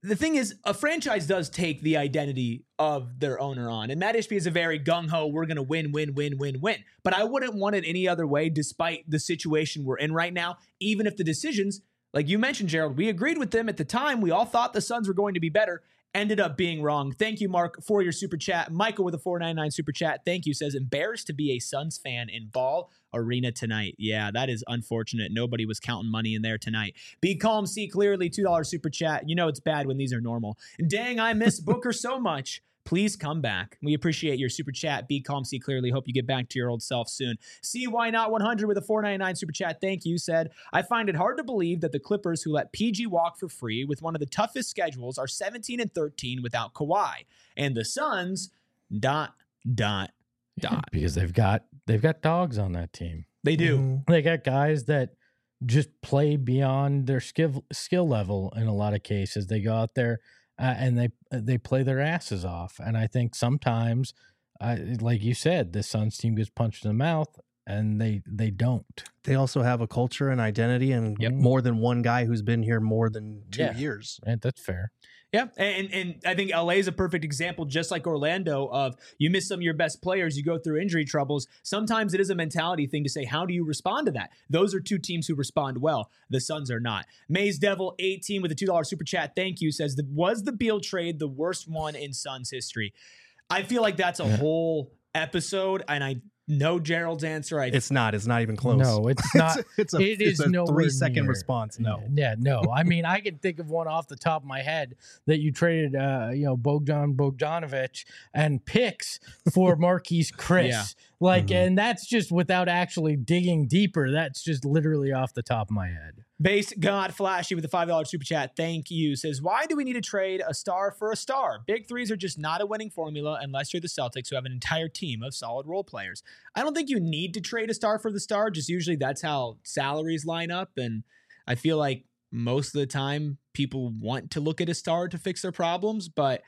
the thing is, a franchise does take the identity of their owner on. And Matt Ishbia is a very gung-ho, we're going to win, win, win, win, win. But I wouldn't want it any other way, despite the situation we're in right now, even if the decisions, like you mentioned, Gerald, we agreed with them at the time. We all thought the Suns were going to be better. Ended up being wrong. Thank you, Mark, for your super chat. Michael with a four ninety-nine super chat. Thank you. Says, embarrassed to be a Suns fan in Ball Arena tonight. Yeah, that is unfortunate. Nobody was counting money in there tonight. Be calm, see clearly. two dollars super chat. You know it's bad when these are normal. Dang, I miss Booker so much. Please come back. We appreciate your super chat. Be calm, see clearly. Hope you get back to your old self soon. See why not one hundred with a four ninety-nine super chat. Thank you. Said, I find it hard to believe that the Clippers, who let P G walk for free with one of the toughest schedules, are seventeen and thirteen without Kawhi. And the Suns, dot, dot, dot. Because they've got they've got dogs on that team. They do. Mm-hmm. They got guys that just play beyond their skill skill level in a lot of cases. They go out there uh, and they they play their asses off. And I think sometimes, uh, like you said, the Suns team gets punched in the mouth, and they they don't. They also have a culture and identity, and Yep. more than one guy who's been here more than two Yeah. years. And that's fair. Yeah, and and I think L A is a perfect example, just like Orlando, of you miss some of your best players, you go through injury troubles. Sometimes it is a mentality thing to say, how do you respond to that? Those are two teams who respond well. The Suns are not. Maze Devil eighteen with a two dollars super chat, thank you, says, was the Beal trade the worst one in Suns history? I feel like that's a Yeah. whole episode, and I know Gerald's answer. I It's not. It's not even close. No, it's not. it's a, it it's is a nowhere three second near. response. No. Yeah, no. I mean, I can think of one off the top of my head that you traded, uh, you know, Bogdan Bogdanovic and picks for Marquise Chris. Yeah. Like, Mhm. and that's just without actually digging deeper. That's just literally off the top of my head. Base God Flashy with the five dollars super chat. Thank you. Says, why do we need to trade a star for a star? Big threes are just not a winning formula unless you're the Celtics, who have an entire team of solid role players. I don't think you need to trade a star for the star. Just usually that's how salaries line up. And I feel like most of the time people want to look at a star to fix their problems. But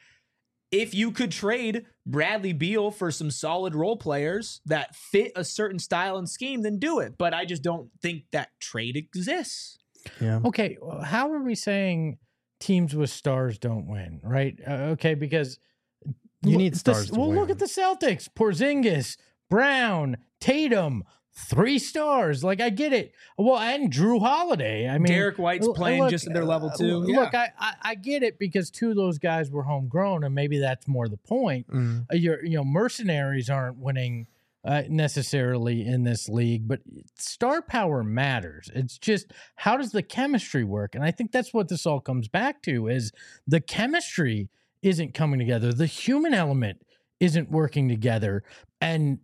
if you could trade Bradley Beal for some solid role players that fit a certain style and scheme, then do it. But I just don't think that trade exists. Yeah. Okay, well, how are we saying teams with stars don't win, right? Uh, okay, because You look- need the- stars to well, look win. at the Celtics: Porzingis, Brown, Tatum, three stars. Like, I get it. Well, and Drew Holiday. I mean, Derek White's L- playing look, just at their level uh, too. Look, I, I I get it because two of those guys were homegrown, and maybe that's more the point. Mm. Uh, Your you know mercenaries aren't winning uh, necessarily in this league, but star power matters. It's just, how does the chemistry work? And I think that's what this all comes back to: is the chemistry isn't coming together, the human element isn't working together, and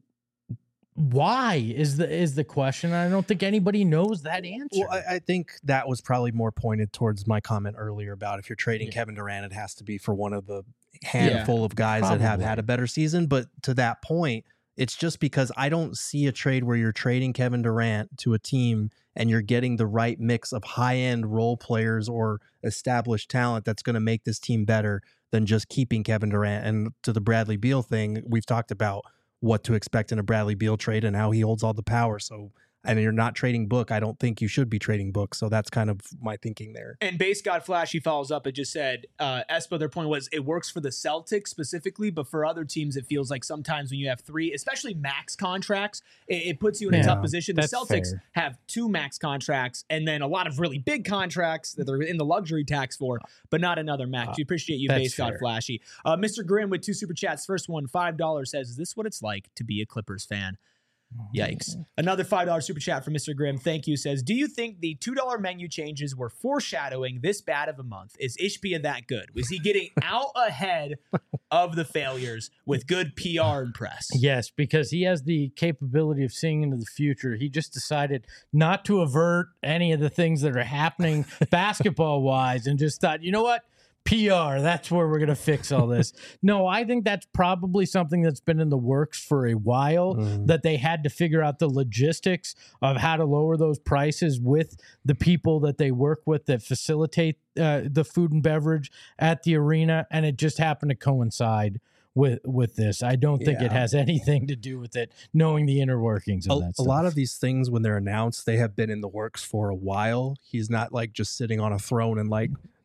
why is the is the question. I don't think anybody knows that answer. Well, I, I think that was probably more pointed towards my comment earlier about if you're trading Yeah. Kevin Durant, it has to be for one of the handful of guys that have probably. had a better season. But to that point, it's just because I don't see a trade where you're trading Kevin Durant to a team and you're getting the right mix of high-end role players or established talent that's going to make this team better than just keeping Kevin Durant. And to the Bradley Beal thing, we've talked about what to expect in a Bradley Beal trade and how he holds all the power. So, and you're not trading Book. I don't think you should be trading Book. So that's kind of my thinking there. And Base God Flashy follows up. It just said, uh, Espo, their point was it works for the Celtics specifically, but for other teams, it feels like sometimes when you have three, especially max contracts, it, it puts you in a Yeah, tough position. The that's Celtics fair. have two max contracts and then a lot of really big contracts that they're in the luxury tax for, but not another max. We appreciate you, That's Base God fair. Flashy. Uh, Mister Grimm with two super chats. First one, five dollars, says, is this what it's like to be a Clippers fan? Yikes. Another five dollars super chat from Mister Grimm. Thank you. Says, do you think the two dollars menu changes were foreshadowing this bad of a month? Is Ishbia that good? Was he getting out ahead of the failures with good P R and press? Yes, because he has the capability of seeing into the future. He just decided not to avert any of the things that are happening basketball wise and just thought, you know what? P R, that's where we're going to fix all this. No, I think that's probably something that's been in the works for a while, Mhm. that they had to figure out the logistics of how to lower those prices with the people that they work with that facilitate uh, the food and beverage at the arena. And it just happened to coincide with with this. I don't think it Yeah. has anything to do with it, knowing the inner workings of A, that a stuff. lot of these things, when they're announced, they have been in the works for a while. He's not like just sitting on a throne and like,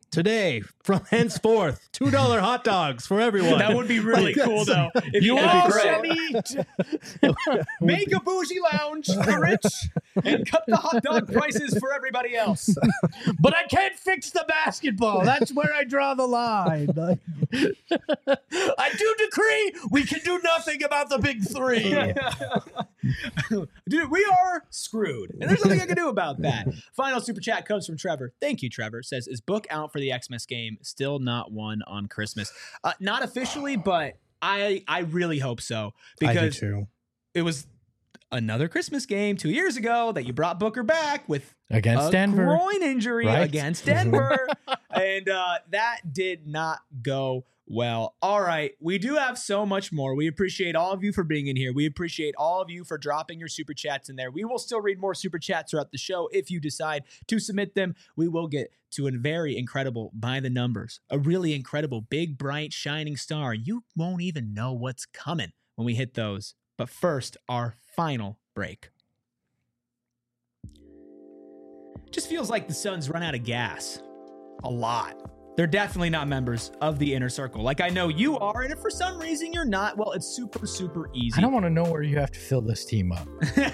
Today, from henceforth, two dollar hot dogs for everyone. That would be really cool, though. If You you all all shall make a bougie lounge for the rich and cut the hot dog prices for everybody else. But I can't fix the basketball. That's where I draw the line. I do decree we can do nothing about the big three. Dude, we are screwed. And there's nothing I can do about that. Final super chat comes from Trevor. Thank you, Trevor. Says, is book out for the Xmas game still not one on Christmas? Uh, not officially, but I I really hope so. I do Because too. it was another Christmas game two years ago that you brought Booker back with Against a Denver. groin injury Right? against Denver. And uh, that did not go well. All right. We do have so much more. We appreciate all of you for being in here. We appreciate all of you for dropping your super chats in there. We will still read more super chats throughout the show. If you decide to submit them, we will get to a very incredible by the numbers, a really incredible, big, bright, shining star. You won't even know what's coming when we hit those. But first, our final break. Just feels like the Suns run out of gas a lot. They're definitely not members of the Inner Circle. Like, I know you are, and if for some reason you're not, well, it's super, super easy. I don't want to know where you have to fill this team up.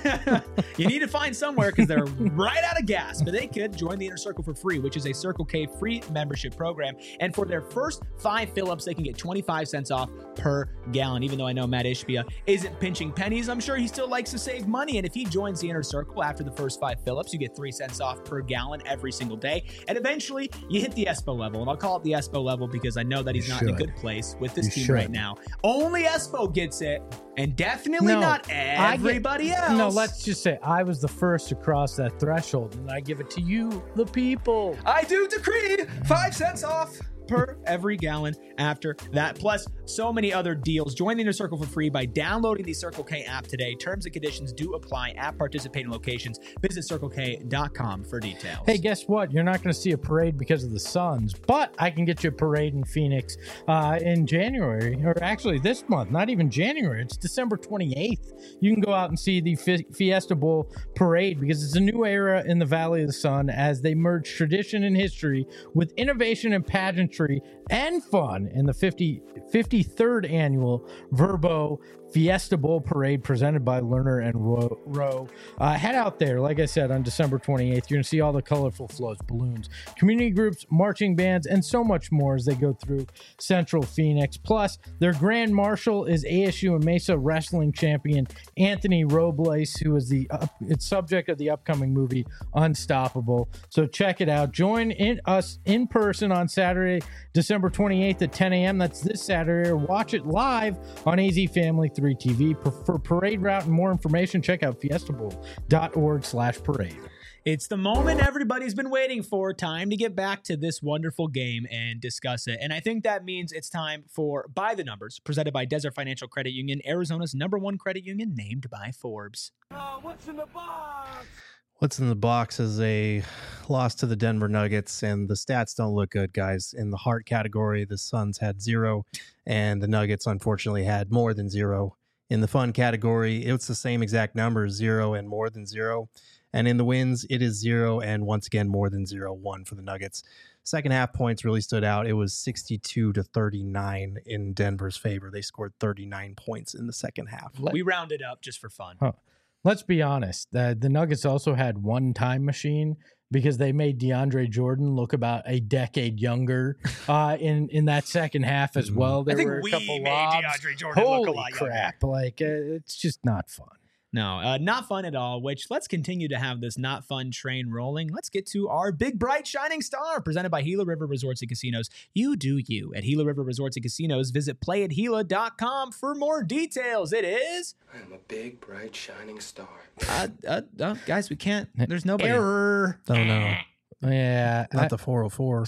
You need to find somewhere because they're right out of gas, but they could join the Inner Circle for free, which is a Circle K free membership program. And for their first five fill-ups, they can get twenty-five cents off per gallon. Even though I know Matt Ishbia isn't pinching pennies, I'm sure he still likes to save money. And if he joins the Inner Circle after the first five fill-ups, you get three cents off per gallon every single day. And eventually, you hit the Espo level. And I'll call it the Espo level because I know that he's You not in a should. good place with this You team should. right now. Only Espo gets it, and definitely No, not I get- everybody else. No, let's just say I was the first to cross that threshold, and I give it to you, the people. I do decree five cents off per every gallon after that. Plus, so many other deals. Join the Inner Circle for free by downloading the Circle K app today. Terms and conditions do apply at participating locations. Visit circle k dot com for details. Hey, guess what? You're not going to see a parade because of the Suns, but I can get you a parade in Phoenix uh, in January, or actually this month, not even January. It's December twenty-eighth. You can go out and see the Fi- Fiesta Bowl parade because it's a new era in the Valley of the Sun as they merge tradition and history with innovation and pageantry and fun in the fifty, fifty-third annual Verbo Fiesta Bowl Parade presented by Lerner and Rowe. Rowe. Uh, head out there, like I said, on December twenty-eighth. You're going to see all the colorful floats, balloons, community groups, marching bands, and so much more as they go through Central Phoenix. Plus, their Grand Marshal is A S U and Mesa wrestling champion Anthony Robles, who is the uh, it's subject of the upcoming movie Unstoppable. So check it out. Join in us in person on Saturday, December twenty-eighth at ten a.m. That's this Saturday. Or watch it live on A Z Family three T V. For, for parade route and more information, check out fiestabowl dot org slash parade. It's the moment everybody's been waiting for. Time to get back to this wonderful game and discuss it. And I think that means it's time for By the Numbers, presented by Desert Financial Credit Union, Arizona's number one credit union, named by Forbes. Uh, what's in the box? What's in the box is a loss to the Denver Nuggets, and the stats don't look good, guys. In the heart category, the Suns had zero, and the Nuggets, unfortunately, had more than zero. In the fun category, it's the same exact numbers, zero and more than zero. And in the wins, it is zero and once again more than zero, one for the Nuggets. Second half points really stood out. It was sixty-two to thirty-nine in Denver's favor. They scored thirty-nine points in the second half. Let- We rounded up just for fun. Huh. Let's be honest. The, the Nuggets also had one time machine because they made DeAndre Jordan look about a decade younger uh, in in that second half as well. There I think were a we couple made lobs. DeAndre Jordan Holy look a lot younger. crap! Like uh, it's just not fun. No, uh, not fun at all, which let's continue to have this not fun train rolling. Let's get to our big, bright, shining star presented by Gila River Resorts and Casinos. You do you. At Gila River Resorts and Casinos, visit play at gila dot com for more details. It is... I am a big, bright, shining star. Uh, uh, uh, guys, we can't... There's nobody. Error. Oh, no. Yeah. Not I- the four oh four.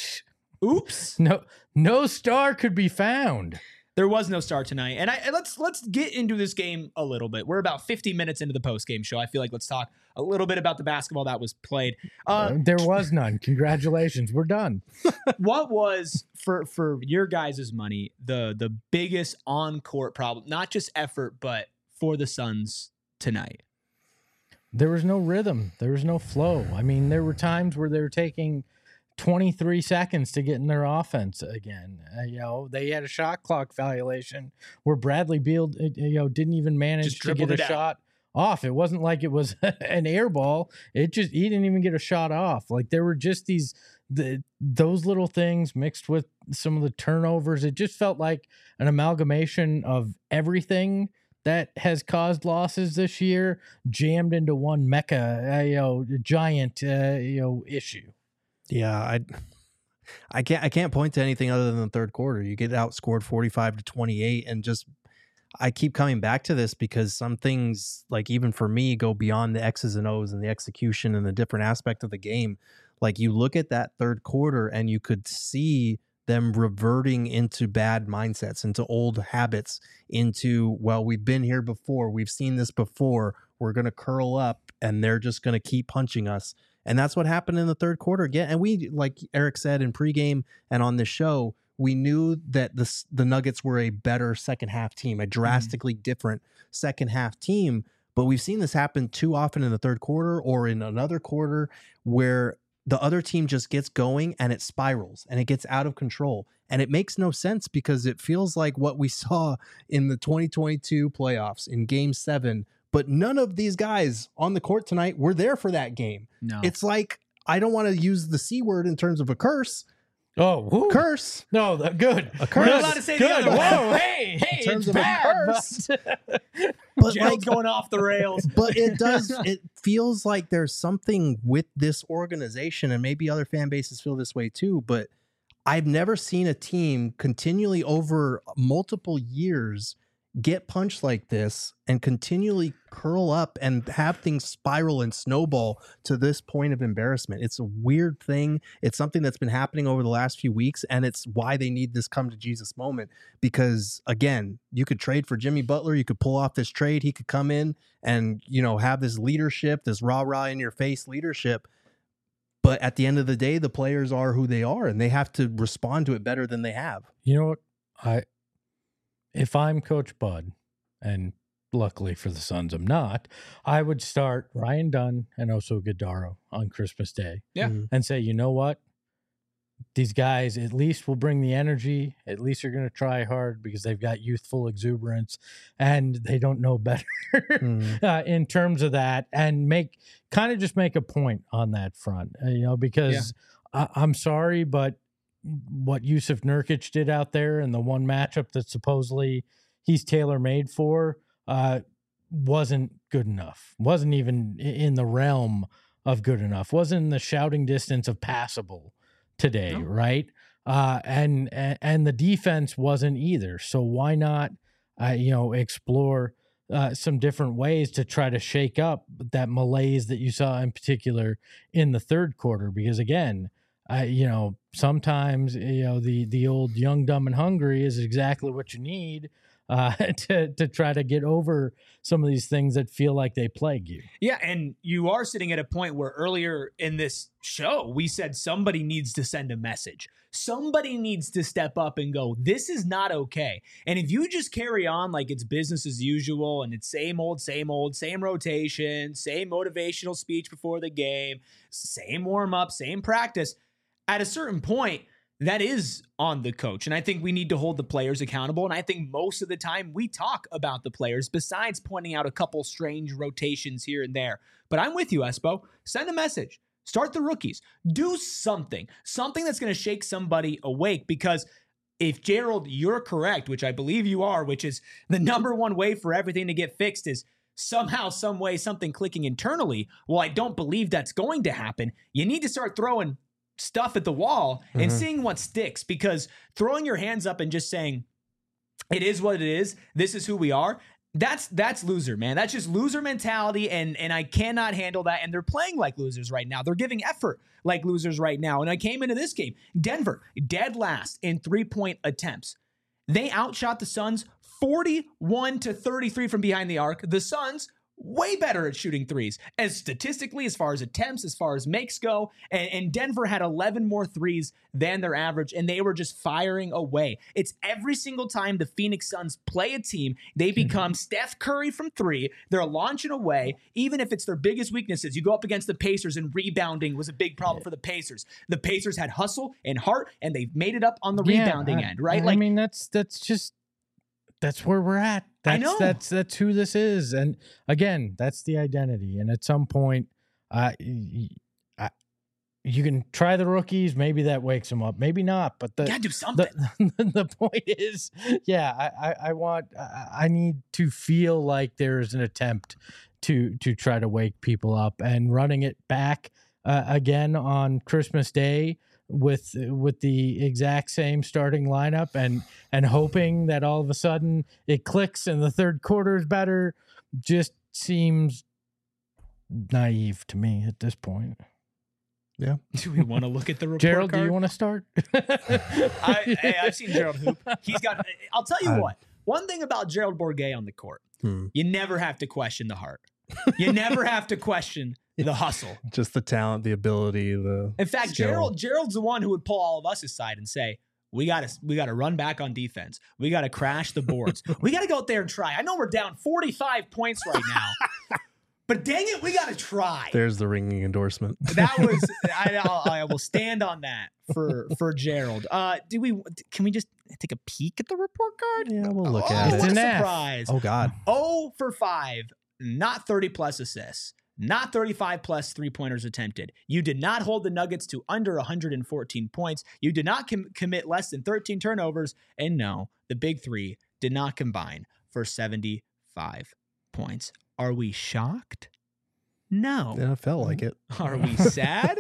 Oops. no, no star could be found. There was no star tonight. And I and let's let's get into this game a little bit. We're about fifty minutes into the post-game show. I feel like let's talk a little bit about the basketball that was played. Uh, there was none. Congratulations. We're done. what was for for your guys' money the the biggest on-court problem, not just effort, but for the Suns tonight? There was no rhythm. There was no flow. I mean, there were times where they were taking twenty-three seconds to get in their offense again. Uh, you know, they had a shot clock violation where Bradley Beal, uh, you know, didn't even manage Just to get dribbled a it out. shot off. It wasn't like it was an air ball. It just, he didn't even get a shot off. Like there were just these, the, those little things mixed with some of the turnovers. It just felt like an amalgamation of everything that has caused losses this year jammed into one mecha, uh, you know, giant, uh, you know, issue. Yeah, I I can't I can't point to anything other than the third quarter. You get outscored forty-five to twenty-eight, and just I keep coming back to this because some things, like even for me, go beyond the X's and O's and the execution and the different aspect of the game. Like you look at that third quarter and you could see them reverting into bad mindsets, into old habits, into, well, we've been here before, we've seen this before, we're going to curl up and they're just going to keep punching us. And that's what happened in the third quarter again. And we, like Eric said in pregame and on this show, we knew that the, the Nuggets were a better second half team, a drastically mm-hmm. different second half team. But we've seen this happen too often in the third quarter or in another quarter where the other team just gets going and it spirals and it gets out of control. And it makes no sense because it feels like what we saw in the twenty twenty-two playoffs in game seven. But none of these guys on the court tonight were there for that game. No. It's like, I don't want to use the C word in terms of a curse. Oh, whoo. Curse. No, the, good. A curse. We're not allowed to say the Good. other word. Whoa, hey, hey, In terms it's of a bad, curse. but- But Gerald's like, going off the rails. but it does, it feels like there's something with this organization, and maybe other fan bases feel this way too, but I've never seen a team continually over multiple years get punched like this and continually curl up and have things spiral and snowball to this point of embarrassment. It's a weird thing. It's something that's been happening over the last few weeks, and it's why they need this come to Jesus moment. Because again, you could trade for Jimmy Butler, you could pull off this trade, he could come in and, you know, have this leadership, this rah-rah in your face leadership. But at the end of the day, the players are who they are, and they have to respond to it better than they have. You know what? I if I'm Coach Bud, and luckily for the Suns I'm not, I would start Ryan Dunn and Oso Guidaro on Christmas Day. Yeah. Mhm. And say, you know what? These guys at least will bring the energy. At least they're going to try hard because they've got youthful exuberance and they don't know better Mhm. uh, in terms of that, and make kind of just make a point on that front, uh, you know, because I, I'm sorry, but what Yusuf Nurkic did out there in the one matchup that supposedly he's tailor-made for uh, wasn't good enough. Wasn't even in the realm of good enough. Wasn't in the shouting distance of passable today, No. right? Uh, and, and and the defense wasn't either. So why not, uh, you know, explore uh, some different ways to try to shake up that malaise that you saw in particular in the third quarter? Because again, I, you know, sometimes, you know, the the old young, dumb, and hungry is exactly what you need uh, to to try to get over some of these things that feel like they plague you. Yeah, and you are sitting at a point where earlier in this show, we said somebody needs to send a message. Somebody needs to step up and go, this is not okay. And if you just carry on like it's business as usual and it's same old, same old, same rotation, same motivational speech before the game, same warm-up, same practice, at a certain point, that is on the coach. And I think we need to hold the players accountable. And I think most of the time we talk about the players besides pointing out a couple strange rotations here and there. But I'm with you, Espo. Send a message. Start the rookies. Do something. Something that's going to shake somebody awake. Because if, Gerald, you're correct, which I believe you are, which is the number one way for everything to get fixed is somehow, some way, something clicking internally. Well, I don't believe that's going to happen. You need to start throwing stuff at the wall and Mhm. seeing what sticks, because throwing your hands up and just saying it is what it is, this is who we are, that's that's loser, man. That's just loser mentality, and and I cannot handle that. And they're playing like losers right now. They're giving effort like losers right now. And I came into this game, Denver dead last in three-point attempts. They outshot the Suns forty-one to thirty-three from behind the arc. The Suns way better at shooting threes, as statistically, as far as attempts, as far as makes go. And, and Denver had eleven more threes than their average, and they were just firing away. It's every single time the Phoenix Suns play a team, they become Steph Curry from three. They're launching away, even if it's their biggest weaknesses. You go up against the Pacers, and rebounding was a big problem for the Pacers. The Pacers had hustle and heart, and they made it up on the Yeah, rebounding I, end, right? I Like, mean, that's that's just that's where we're at. That's, I know. That's that's who this is, and again, that's the identity. And at some point, uh, y- I, you can try the rookies. Maybe that wakes them up. Maybe not. But the you gotta do something. the, the point is, yeah, I, I, I want, I, I need to feel like there's an attempt to to try to wake people up, and running it back uh, again on Christmas Day with with the exact same starting lineup, and and hoping that all of a sudden it clicks and the third quarter is better, just seems naive to me at this point. Do we want to look at the report Gerald, card? do you want to start? I, hey, I've seen Gerald hoop. He's got. I'll tell you I- what. One thing about Gerald Bourguet on the court, Hmm. you never have to question the heart. You never have to question the hustle. Just the talent, the ability, the In fact, skill. Gerald Gerald's the one who would pull all of us aside and say, "We got to we got to run back on defense. We got to crash the boards. We got to go out there and try. I know we're down forty-five points right now, but dang it, we got to try." There's the ringing endorsement. That was I, I'll, I will stand on that for for Gerald. Uh, do we? Can we just take a peek at the report card? Yeah, we'll look Oh, at It's what it. an a F. surprise! Oh God, oh for five, not thirty plus assists, not thirty-five plus three pointers attempted. You did not hold the Nuggets to under one hundred fourteen points. You did not com- commit less than thirteen turnovers, and no, the big three did not combine for seventy-five points. Are we shocked? No. yeah, it felt like it. Are we sad?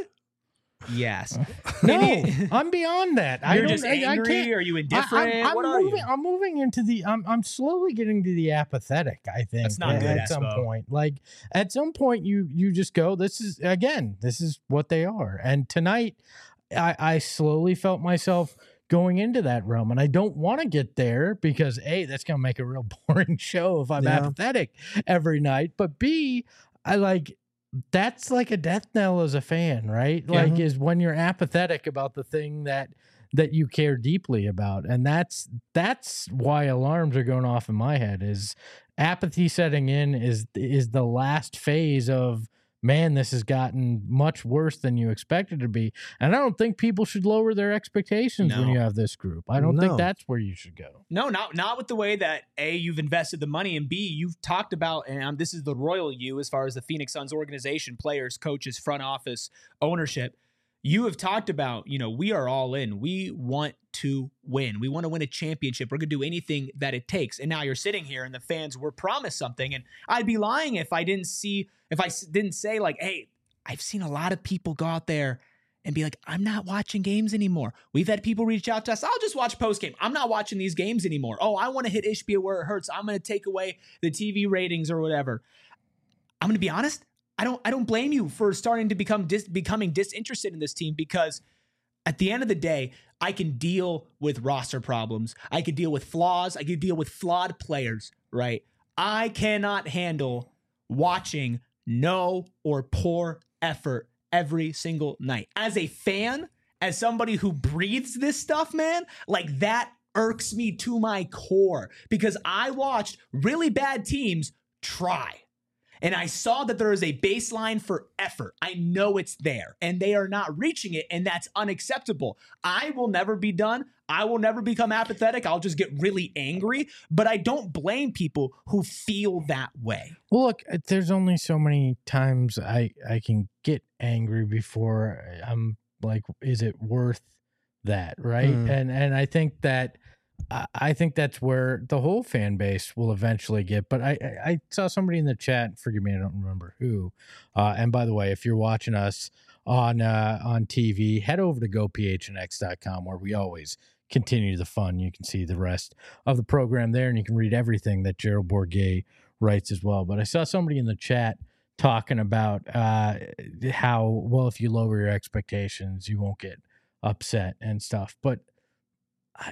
Yes. No, Maybe- I'm beyond that. I You're don't. just I, I angry? can't. Are you I, indifferent? I'm, I'm what are moving. you? I'm moving into the. I'm. I'm slowly getting to the apathetic. I think That's not at, good, at some Espo. point. Like at some point, you you just go. This is again. This is what they are. And tonight, I, I slowly felt myself going into that realm, and I don't want to get there because A, that's gonna make a real boring show if I'm Yeah. apathetic every night. But B, I like. That's like a death knell as a fan, right? Yeah. Like is when you're apathetic about the thing that that you care deeply about. And that's that's why alarms are going off in my head is apathy setting in is is the last phase of man, this has gotten much worse than you expected to be. And I don't think people should lower their expectations when No. you have this group. I don't think No. that's where you should go. No, not not with the way that A, you've invested the money, and B, you've talked about, and um, this is the royal you as far as the Phoenix Suns organization, players, coaches, front office, ownership. You have talked about, you know, we are all in. We want to win. We want to win a championship. We're going to do anything that it takes. And now you're sitting here and the fans were promised something. And I'd be lying if I didn't see, if I s- didn't say like, hey, I've seen a lot of people go out there and be like, I'm not watching games anymore. We've had people reach out to us. I'll just watch post game. I'm not watching these games anymore. Oh, I want to hit Ishbia where it hurts. I'm going to take away the T V ratings or whatever. I'm going to be honest. I don't I don't blame you for starting to become dis, becoming disinterested in this team because at the end of the day, I can deal with roster problems. I can deal with flaws. I can deal with flawed players, right? I cannot handle watching no or poor effort every single night. As a fan, as somebody who breathes this stuff, man, like that irks me to my core because I watched really bad teams try. And I saw that there is a baseline for effort. I know it's there and they are not reaching it. And that's unacceptable. I will never be done. I will never become apathetic. I'll just get really angry, but I don't blame people who feel that way. Well, look, uh, there's only so many times I, I can get angry before I'm like, is it worth that? Right. Mm. And, and I think that, I- I think that's where the whole fan base will eventually get. But I, I, I saw somebody in the chat, forgive me, I don't remember who. Uh, and by the way, if you're watching us on, uh, on T V, head over to go p h n x dot com where we always continue the fun. You can see the rest of the program there and you can read everything that Gerald Bourguet writes as well. But I saw somebody in the chat talking about uh, how, well, if you lower your expectations, you won't get upset and stuff. But I,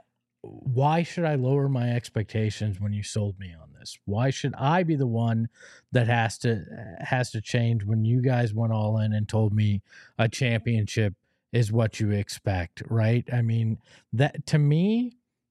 why should I lower my expectations when you sold me on this? Why should I be the one that has to has to change when you guys went all in and told me a championship is what you expect, right? I mean, that to me,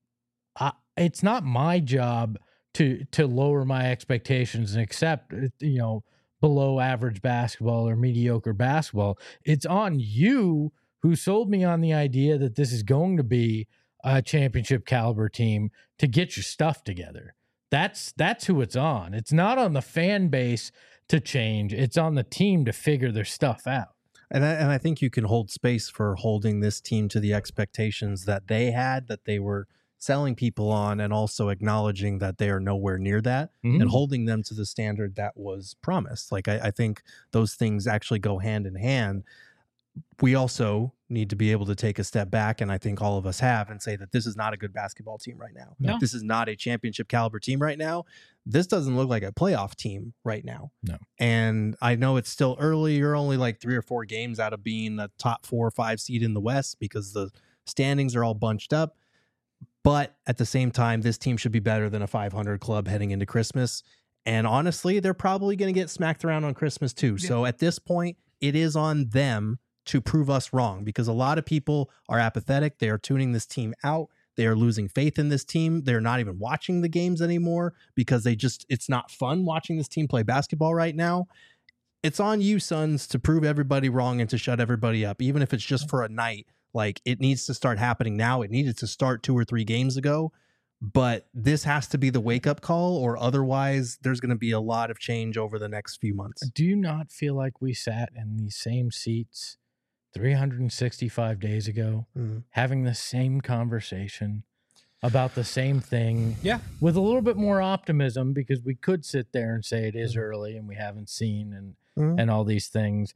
I, it's not my job to to lower my expectations and accept, you know, below average basketball or mediocre basketball. It's on you who sold me on the idea that this is going to be a championship caliber team to get your stuff together. That's that's who it's on. It's not on the fan base to change. It's on the team to figure their stuff out. And I, and I think you can hold space for holding this team to the expectations that they had, that they were selling people on, and also acknowledging that they are nowhere near that, Mm-hmm. and holding them to the standard that was promised. Like, I, I think those things actually go hand in hand. We also need to be able to take a step back, and I think all of us have, and say that this is not a good basketball team right now. No. This is not a championship caliber team right now. This doesn't look like a playoff team right now. No. And I know it's still early. You're only like three or four games out of being a top four or five seed in the West because the standings are all bunched up. But at the same time, this team should be better than a five hundred club heading into Christmas. And honestly, they're probably going to get smacked around on Christmas too. Yeah. So at this point, it is on them to prove us wrong, because a lot of people are apathetic. They are tuning this team out. They are losing faith in this team. They're not even watching the games anymore because they just, it's not fun watching this team play basketball right now. It's on you, Suns, to prove everybody wrong and to shut everybody up, even if it's just for a night. Like, it needs to start happening now. It needed to start two or three games ago, but this has to be the wake up call, or otherwise there's going to be a lot of change over the next few months. Do you not feel like we sat in these same seats three hundred sixty-five days ago, Mm-hmm. having the same conversation about the same thing? Yeah. With a little bit more optimism, because we could sit there and say it is Mhm. early and we haven't seen and Mhm. and all these things.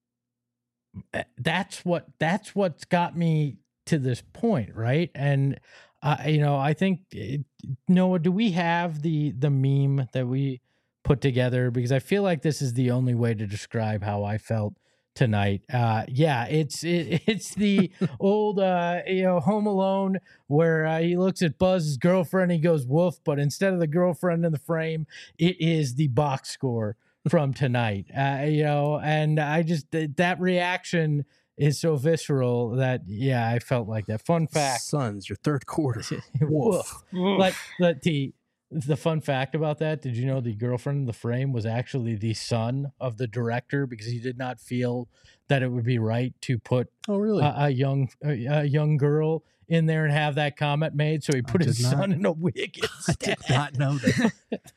That's what that's what's got me to this point, right? And uh, you know, I think it, Noah, do we have the the meme that we put together? Because I feel like this is the only way to describe how I felt tonight. Uh, yeah, it's it, it's the old uh, you know, Home Alone, where uh, he looks at Buzz's girlfriend, he goes woof, but instead of the girlfriend in the frame, it is the box score from tonight. Uh, you know, and I just th- that reaction is so visceral that yeah, I felt like that. Fun fact, Suns, your third quarter. woof. But but the the fun fact about that, did you know the girlfriend in the frame was actually the son of the director, because he did not feel that it would be right to put Oh, really? a, a young a, a young girl in there and have that comment made, so he put his did not- son in a wig I instead. did not know that.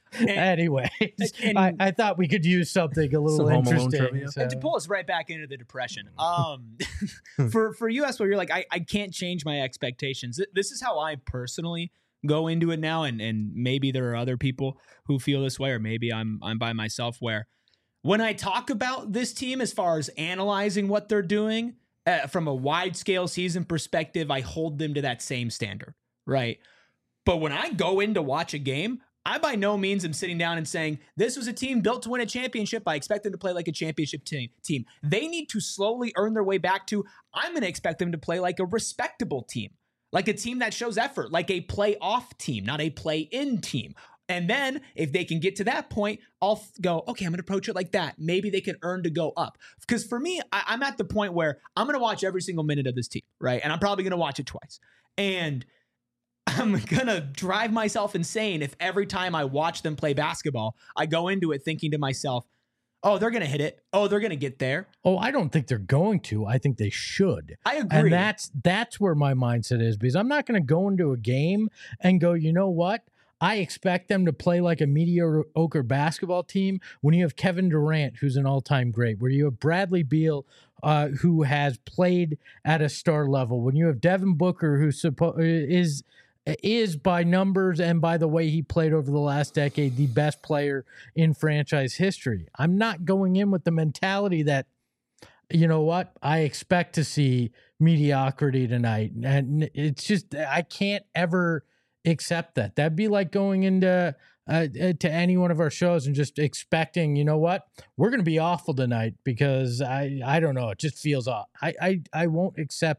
Anyway, and- I, I thought we could use something a little Some Home Alone interesting. trivia. so- And to pull us right back into the depression, um, for for you, as well, you're like, I, I can't change my expectations. Th- This is how I personally go into it now, and and maybe there are other people who feel this way, or maybe I'm I'm by myself. Where when I talk about this team, as far as analyzing what they're doing uh, from a wide scale season perspective, I hold them to that same standard, right? But when I go in to watch a game, I by no means am sitting down and saying, this was a team built to win a championship. I expect them to play like a championship te- team. They need to slowly earn their way back to, I'm going to expect them to play like a respectable team, like a team that shows effort, like a playoff team, not a play-in team. And then if they can get to that point, I'll th- go, okay, I'm going to approach it like that. Maybe they can earn to go up. Because for me, I- I'm at the point where I'm going to watch every single minute of this team, right? And I'm probably going to watch it twice. And I'm going to drive myself insane if every time I watch them play basketball, I go into it thinking to myself, oh, they're going to hit it. Oh, they're going to get there. Oh, I don't think they're going to. I think they should. I agree. And that's that's where my mindset is, because I'm not going to go into a game and go, you know what? I expect them to play like a mediocre basketball team when you have Kevin Durant, who's an all-time great, where you have Bradley Beal, uh, who has played at a star level, when you have Devin Booker, who suppo- is is by numbers and by the way he played over the last decade the best player in franchise history. I'm not going in with the mentality that, you know what, I expect to see mediocrity tonight. And it's just, I can't ever accept that. That'd be like going into uh, to any one of our shows and just expecting, you know what, we're going to be awful tonight because I, I don't know, it just feels off. I, I, I won't accept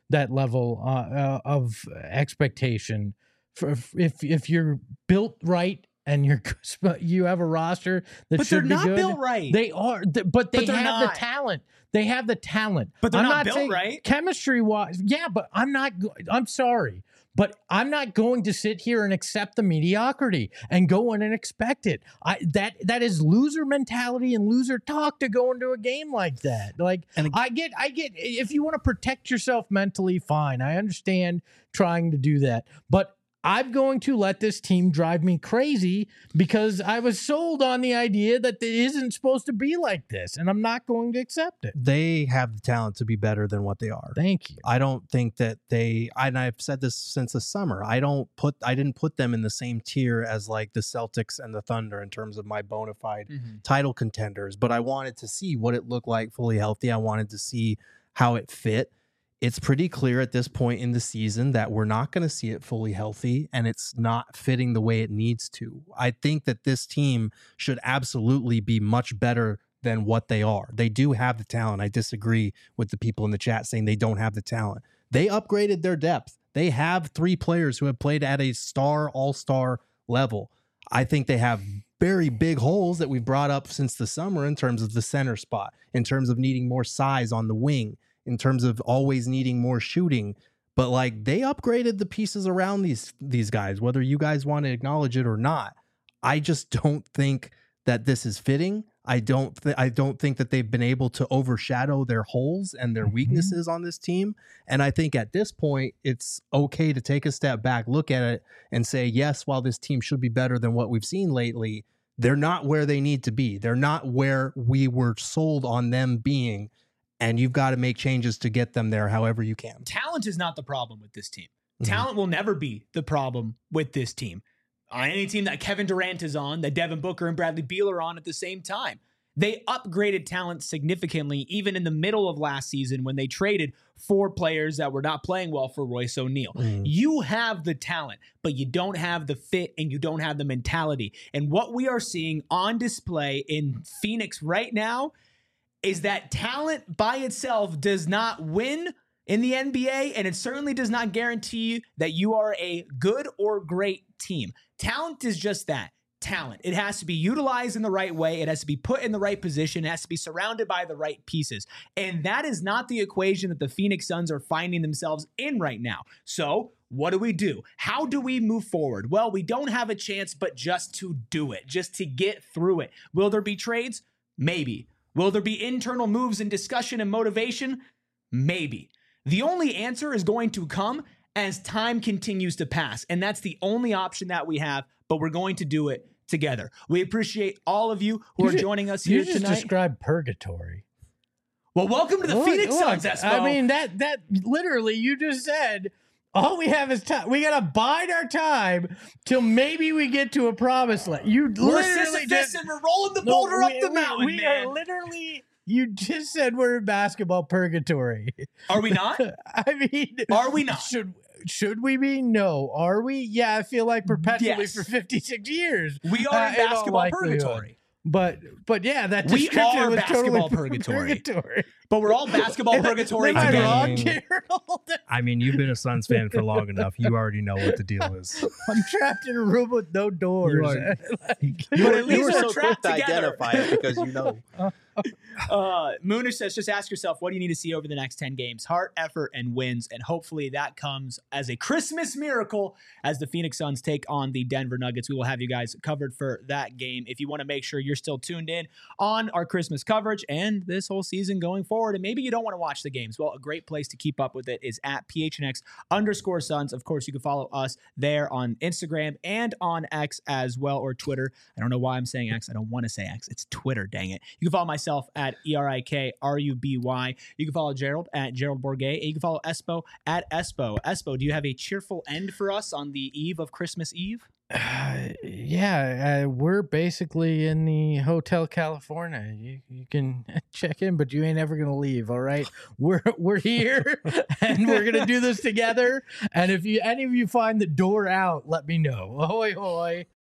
that level uh, uh, of expectation. For if if you're built right and you're you have a roster that But should they're be not good, built right. They are, th- but they But they're have the not. talent. They have the talent. But they're I'm not built saying right. Chemistry wise, yeah. But I'm not. go- I'm sorry, but I'm not going to sit here and accept the mediocrity and go in and expect it. I that that is loser mentality and loser talk to go into a game like that. Like And ag- I get, I get. If you want to protect yourself mentally, fine. I understand trying to do that, but I'm going to let this team drive me crazy because I was sold on the idea that it isn't supposed to be like this, and I'm not going to accept it. They have the talent to be better than what they are. Thank you. I don't think that they, and I've said this since the summer, I don't put, I didn't put them in the same tier as like the Celtics and the Thunder in terms of my bona fide Mm-hmm. title contenders, but I wanted to see what it looked like fully healthy. I wanted to see how it fit. It's pretty clear at this point in the season that we're not going to see it fully healthy and it's not fitting the way it needs to. I think that this team should absolutely be much better than what they are. They do have the talent. I disagree with the people in the chat saying they don't have the talent. They upgraded their depth. They have three players who have played at a star, all-star level. I think they have very big holes that we've brought up since the summer in terms of the center spot, in terms of needing more size on the wing, in terms of always needing more shooting. But like they upgraded the pieces around these these guys, whether you guys want to acknowledge it or not. I just don't think that this is fitting. I don't th- I don't think that they've been able to overshadow their holes and their Mhm. weaknesses on this team. And I think at this point, it's okay to take a step back, look at it and say, yes, while this team should be better than what we've seen lately, they're not where they need to be. They're not where we were sold on them being. And you've got to make changes to get them there however you can. Talent is not the problem with this team. Mhm. Talent will never be the problem with this team. On any team that Kevin Durant is on, that Devin Booker and Bradley Beal are on at the same time. They upgraded talent significantly, even in the middle of last season when they traded four players that were not playing well for Royce O'Neal. Mhm. You have the talent, but you don't have the fit and you don't have the mentality. And what we are seeing on display in Phoenix right now is that talent by itself does not win in the N B A, and it certainly does not guarantee you that you are a good or great team. Talent is just that, talent. It has to be utilized in the right way. It has to be put in the right position. It has to be surrounded by the right pieces. And that is not the equation that the Phoenix Suns are finding themselves in right now. So what do we do? How do we move forward? Well, we don't have a chance but just to do it, just to get through it. Will there be trades? Maybe. Will there be internal moves and discussion and motivation? Maybe. The only answer is going to come as time continues to pass. And that's the only option that we have, but we're going to do it together. We appreciate all of you who You are just- joining us You here just tonight. described purgatory. Well, welcome to the Look, Phoenix look, Suns, Espo. I mean, that that literally you just said all we have is time. We gotta bide our time till maybe we get to a promised land. You we're literally Sisyphus just and we're rolling the No, boulder we- up the we- mountain, we man. are literally. You just said we're in basketball purgatory. Are we not? I mean, Are we not? Should should we be? No. Are we? Yeah, I feel like perpetually Yes. for fifty-six years. We are Uh, in in all basketball likelihood. purgatory. But but yeah, that We description are was basketball totally purgatory. purgatory. But we're all basketball purgatory Am I together. wrong, I mean- Gerald? I mean, you've been a Suns fan for long enough. You already know what the deal is. I'm trapped in a room with no doors. are- Like- But at least you were we're so quick trapped to together. identify it because you know. Uh, Moonish says, just ask yourself, what do you need to see over the next ten games? Heart, effort, and wins. And hopefully that comes as a Christmas miracle as the Phoenix Suns take on the Denver Nuggets. We will have you guys covered for that game. If you want to make sure you're still tuned in on our Christmas coverage and this whole season going forward, and maybe you don't want to watch the games, well, a great place to keep up with it is at P H N X underscore Suns. Of course, you can follow us there on Instagram and on X as well, or Twitter. I don't know why I'm saying X. I don't want to say X. It's Twitter, dang it. You can follow myself at E R I K R U B Y. You can follow Gerald at Gerald Bourget. And you can follow Espo at Espo. Espo, do you have a cheerful end for us on the eve of Christmas Eve? Uh, yeah, uh, we're basically in the Hotel California. You, you can check in, but you ain't ever gonna leave. All right, we're we're here, and we're gonna do this together. And if you any of you find the door out, let me know. Ahoy, hoy!